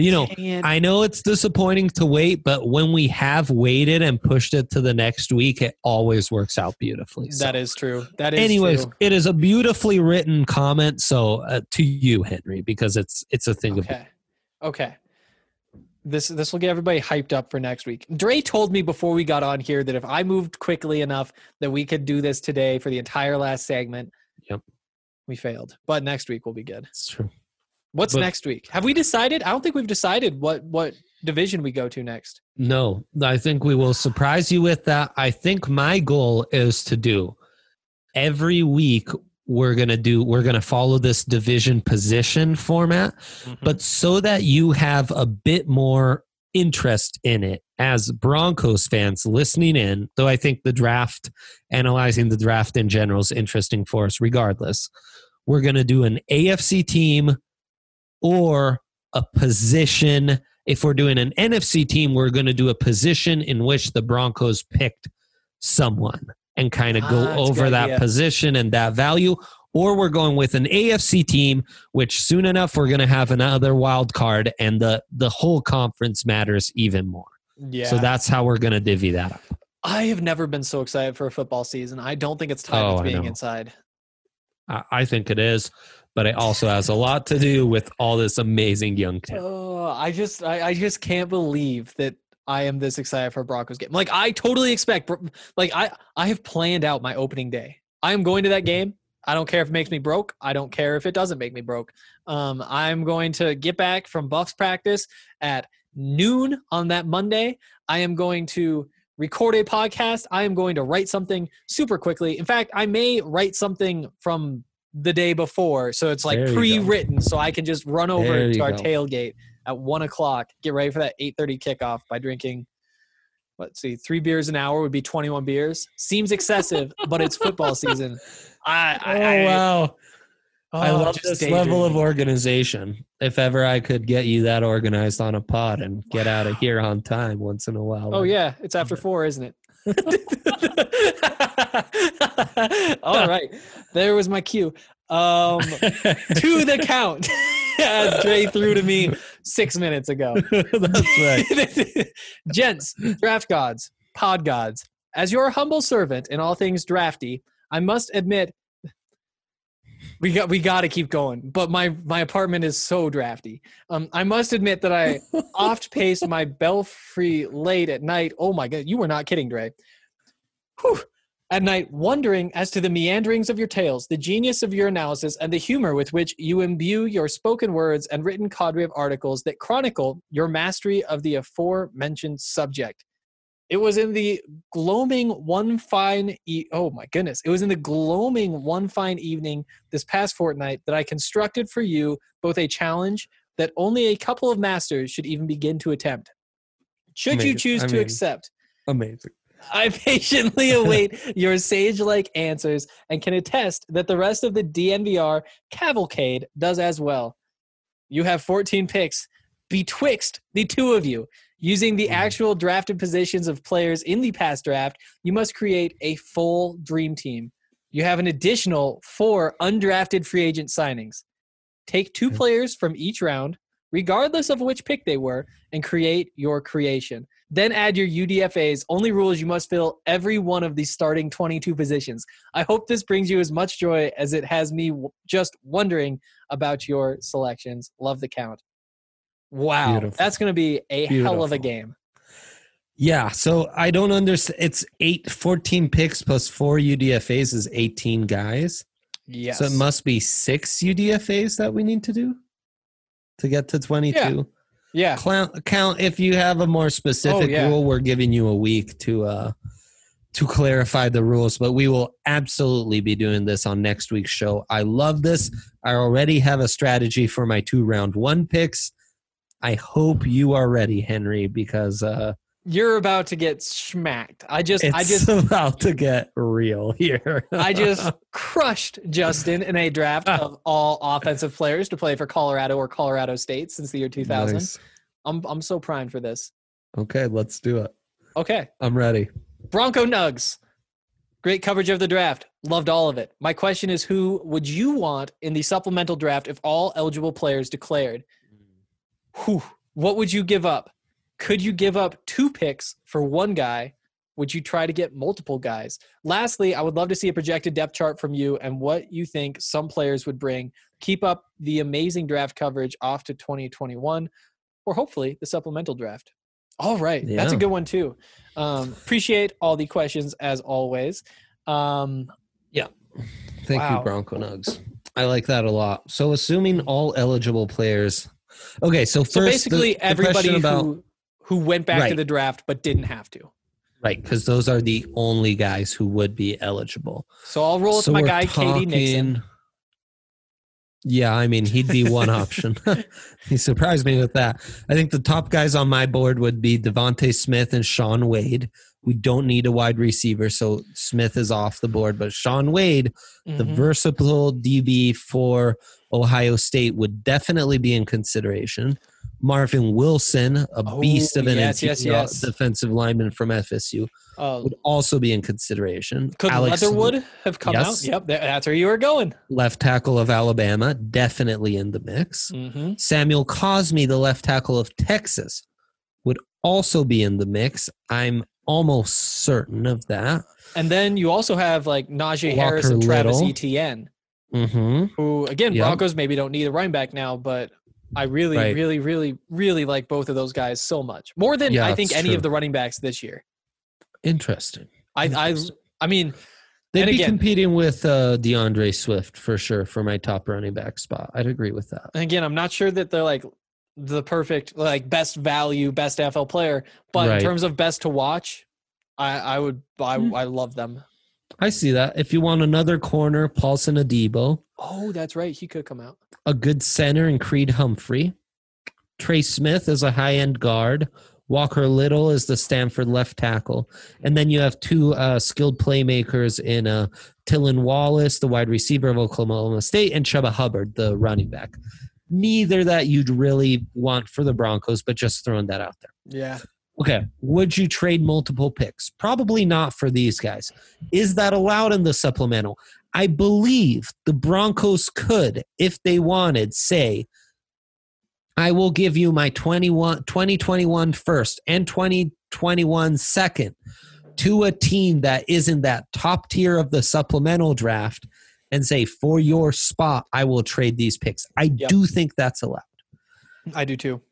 I know it's disappointing to wait, but when we have waited and pushed it to the next week, it always works out beautifully. So, that is true. Anyways, it is a beautifully written comment. So to you, Henry, because it's a thing of. Okay. This will get everybody hyped up for next week. Dre told me before we got on here that if I moved quickly enough that we could do this today for the entire last segment. Yep. We failed. But next week will be good. It's true. What's next week? Have we decided? I don't think we've decided what division we go to next. No, I think we will surprise you with that. I think my goal is to do every week we're going to follow this division position format, but so that you have a bit more interest in it as Broncos fans listening in, though I think analyzing the draft in general is interesting for us regardless. We're going to do an AFC team or a position. If we're doing an NFC team, we're going to do a position in which the Broncos picked someone and kind of go over that position and that value. Or we're going with an AFC team, which soon enough we're going to have another wild card, and the whole conference matters even more. Yeah. So that's how we're going to divvy that up. I have never been so excited for a football season. I don't think it's time it's being inside. I think it is. but it also has a lot to do with all this amazing young talent. Oh, I just can't believe that I am this excited for a Broncos game. Like, I totally expect, like, I have planned out my opening day. I am going to that game. I don't care if it makes me broke. I don't care if it doesn't make me broke. I'm going to get back from Buffs practice at noon on that Monday. I am going to record a podcast. I am going to write something super quickly. In fact, I may write something from the day before, so it's like pre-written, so I can just run over to our tailgate at 1:00. Get ready for that 8:30 kickoff by drinking. Let's see, 3 beers an hour would be 21 beers. Seems excessive, but it's football season. Wow. I love this level of organization. If ever I could get you that organized on a pod and get out of here on time once in a while. Oh, yeah. It's after 4, isn't it? All right. There was my cue. To the count, as Dre threw to me 6 minutes ago. That's right. Gents, draft gods, pod gods, as your humble servant in all things drafty, I must admit, we got to keep going. But my apartment is so drafty. I must admit that I oft paced my belfry late at night. Oh my God, you were not kidding, Dre. Whew. At night, wondering as to the meanderings of your tales, the genius of your analysis, and the humor with which you imbue your spoken words and written cadre of articles that chronicle your mastery of the aforementioned subject. It was in the gloaming one fine evening this past fortnight that I constructed for you both a challenge that only a couple of masters should even begin to attempt. Should you choose to accept. Amazing. I patiently await your sage-like answers and can attest that the rest of the DNVR cavalcade does as well. You have 14 picks betwixt the two of you. Using the actual drafted positions of players in the past draft, you must create a full dream team. You have an additional 4 undrafted free agent signings. Take 2 players from each round, regardless of which pick they were, and create your creation. Then add your UDFAs. Only rule is you must fill every one of the starting 22 positions. I hope this brings you as much joy as it has me just wondering about your selections. Love the count. Wow. Beautiful. That's going to be a hell of a game. Yeah, so I don't understand. It's 14 picks plus 4 UDFAs is 18 guys. Yes. So it must be 6 UDFAs that we need to do to get to 22. Yeah. Count if you have a more specific rule. We're giving you a week to clarify the rules, but we will absolutely be doing this on next week's show. I love this. I already have a strategy for my 2 round 1 picks. I hope you are ready, Henry, because you're about to get smacked. It's about to get real here. I just crushed Justin in a draft of all offensive players to play for Colorado or Colorado State since the year 2000. Nice. I'm so primed for this. Okay, let's do it. Okay. I'm ready. Bronco Nugs. Great coverage of the draft. Loved all of it. My question is, who would you want in the supplemental draft if all eligible players declared? Whew. What would you give up? Could you give up 2 picks for 1 guy? Would you try to get multiple guys? Lastly, I would love to see a projected depth chart from you and what you think some players would bring. Keep up the amazing draft coverage off to 2021 or hopefully the supplemental draft. All right. Yeah. That's a good one too. Appreciate all the questions as always. Thank you, Bronco Nugs. I like that a lot. So assuming all eligible players... Okay, so basically everybody who went back to the draft but didn't have to. Right, because those are the only guys who would be eligible. So I'll roll with my guy, K.D. Nixon. Yeah, I mean, he'd be one option. He surprised me with that. I think the top guys on my board would be Devontae Smith and Shaun Wade. We don't need a wide receiver, so Smith is off the board. But Shaun Wade, the versatile DB for Ohio State, would definitely be in consideration. Marvin Wilson, a beast of an defensive lineman from FSU, would also be in consideration. Could Leatherwood have come out? Yep, that's where you were going. Left tackle of Alabama, definitely in the mix. Samuel Cosmi, the left tackle of Texas, would also be in the mix. I'm almost certain of that. And then you also have like Najee Harris and Travis Etienne. who, again, Yep. Broncos maybe don't need a running back now, but I really, Right. really, really, really like both of those guys so much. More than Yeah, I think it's any true. of the running backs this year. Interesting. I mean, They'd and be again- competing with DeAndre Swift for sure for my top running back spot. I'd agree with that. and again, I'm not sure that they're like the perfect, like best value, best NFL player, but Right. in terms of best to watch, I love them. I see that. If you want another corner, Paulson Adebo, Oh, that's right. He could come out. a good center in Creed Humphrey, Trey Smith is a high-end guard, Walker Little is the Stanford left tackle, and then you have two skilled playmakers in Tylan Wallace, the wide receiver of Oklahoma State, and Chuba Hubbard, the running back. Neither that you'd really want for the Broncos, but just throwing that out there. Yeah. Okay, would you trade multiple picks? Probably not for these guys. Is that allowed in the supplemental? I believe the Broncos could, if they wanted, say, I will give you my 2021 first and 2021 second to a team that is in that top tier of the supplemental draft and say, for your spot, I will trade these picks. I do think that's allowed. I do too.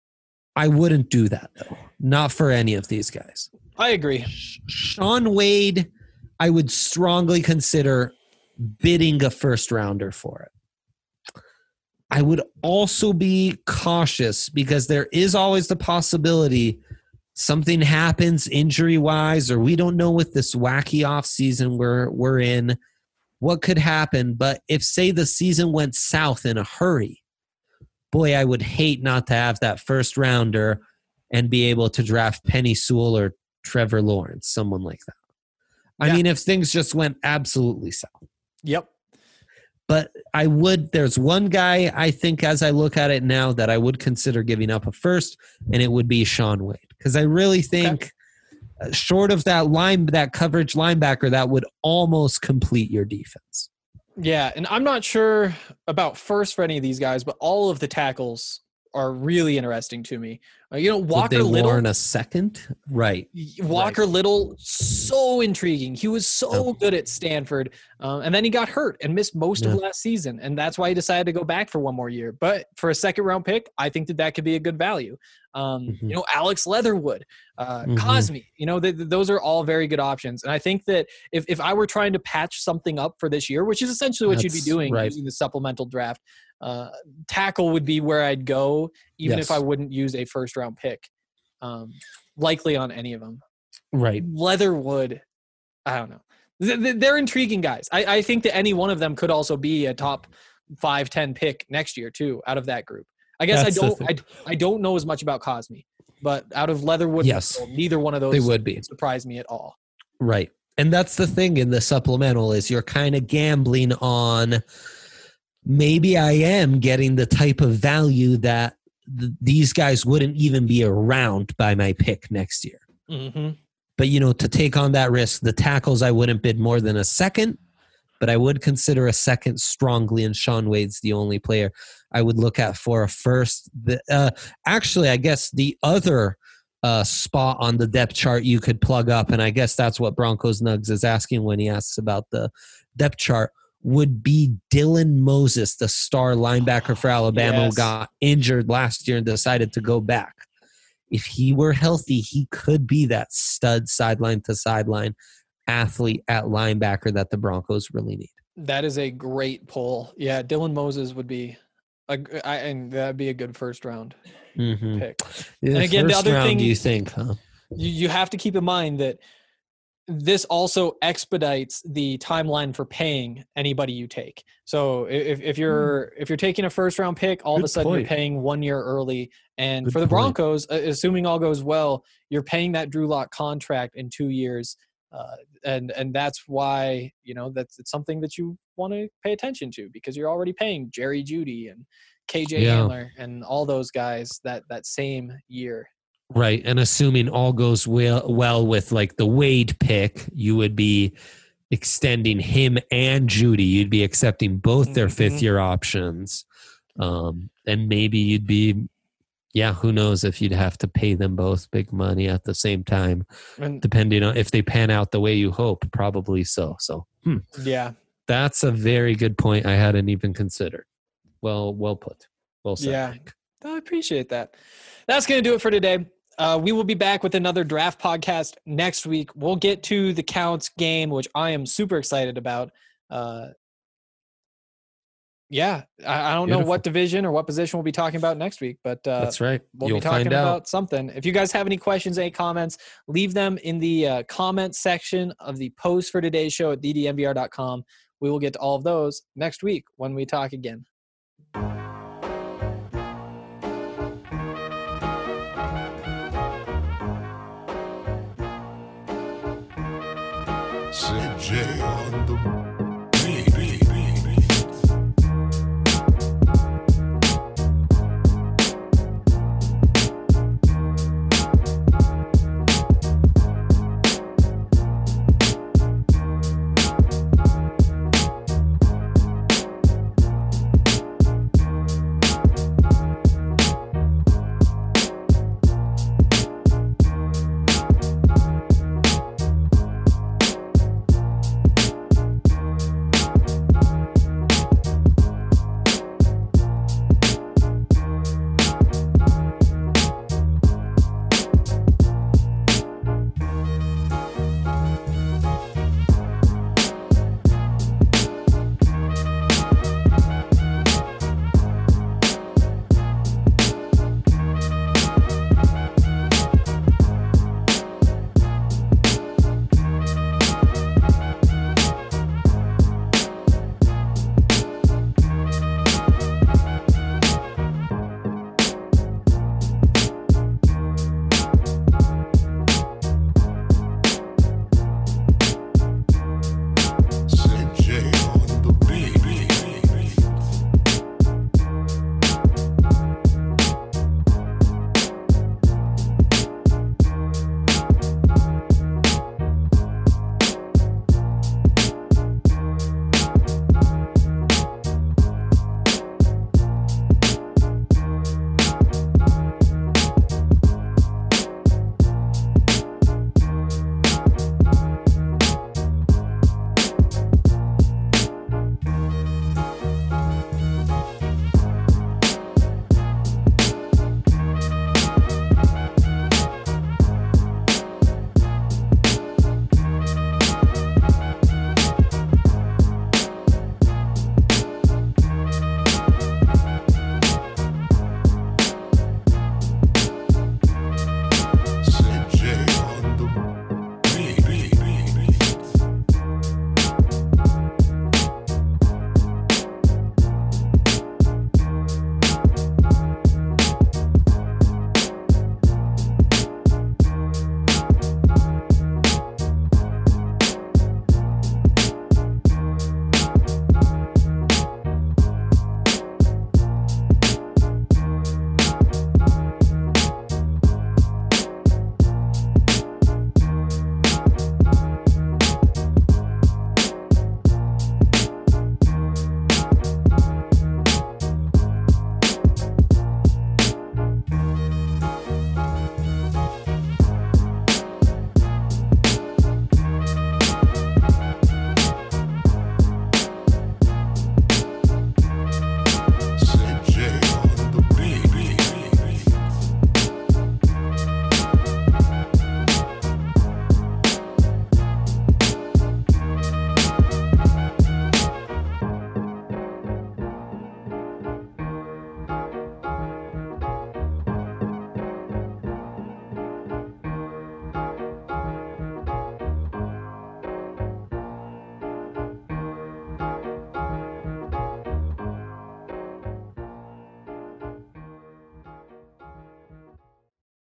I wouldn't do that, though. Not for any of these guys. I agree. Sean Wade, I would strongly consider bidding a first rounder for it. I would also be cautious because there is always the possibility something happens injury-wise, or we don't know with this wacky offseason we're in what could happen. But if, say, the season went south in a hurry, boy, I would hate not to have that first rounder and be able to draft Penny Sewell or Trevor Lawrence, someone like that. I mean, if things just went absolutely south. Yep. But I would, there's one guy I think as I look at it now that I would consider giving up a first, and it would be Sean Wade. Because I really think short of that coverage linebacker, that would almost complete your defense. Yeah, and I'm not sure about first for any of these guys, but all of the tackles are really interesting to me. Walker Little. Warren a second? Right. Walker Little, so intriguing. He was so good at Stanford, and then he got hurt and missed most of last season, and that's why he decided to go back for one more year. But for a second-round pick, I think that could be a good value. Alex Leatherwood, Cosme, those are all very good options. And I think that if I were trying to patch something up for this year, which is essentially what you'd be doing using the supplemental draft, tackle would be where I'd go, even if I wouldn't use a first-round pick, likely on any of them. Right. Leatherwood, I don't know. They're intriguing guys. I think that any one of them could also be a top 5-10 pick next year too, out of that group. I guess I don't know as much about Cosme, but out of Leatherwood, neither one of those would be surprise me at all. Right. And that's the thing in the supplemental is you're kind of gambling on maybe I am getting the type of value that these guys wouldn't even be around by my pick next year. Mm-hmm. But, to take on that risk, the tackles, I wouldn't bid more than a second, but I would consider a second strongly, and Sean Wade's the only player I would look at for a first. Actually, I guess the other spot on the depth chart you could plug up, and I guess that's what Broncos Nugs is asking when he asks about the depth chart, would be Dylan Moses, the star linebacker for Alabama, who got injured last year and decided to go back. If he were healthy, he could be that stud sideline-to-sideline athlete at linebacker that the Broncos really need. That is a great pull. Yeah, Dylan Moses would be and that'd be a good first-round pick. Yeah, and again, the other thing, do you think, huh? You have to keep in mind that this also expedites the timeline for paying anybody you take. So if you're taking a first round pick, all of a sudden you're paying 1 year early. And for the Broncos, assuming all goes well, you're paying that Drew Lock contract in 2 years. And that's why, it's something that you want to pay attention to, because you're already paying Jerry Jeudy and KJ Hamler and all those guys that same year. Right. And assuming all goes well with like the Wade pick, you would be extending him and Jeudy. You'd be accepting both their fifth-year options. And maybe you'd be, who knows if you'd have to pay them both big money at the same time, depending on if they pan out the way you hope. Probably so. So, Yeah. That's a very good point. I hadn't even considered. Well put. Well said. Yeah, I appreciate that. That's going to do it for today. We will be back with another draft podcast next week. We'll get to the Counts game, which I am super excited about. Yeah, I don't know what division or what position we'll be talking about next week, but that's right. We'll be talking about something. If you guys have any questions, any comments, leave them in the comment section of the post for today's show at ddnvr.com. We will get to all of those next week when we talk again. CJ on the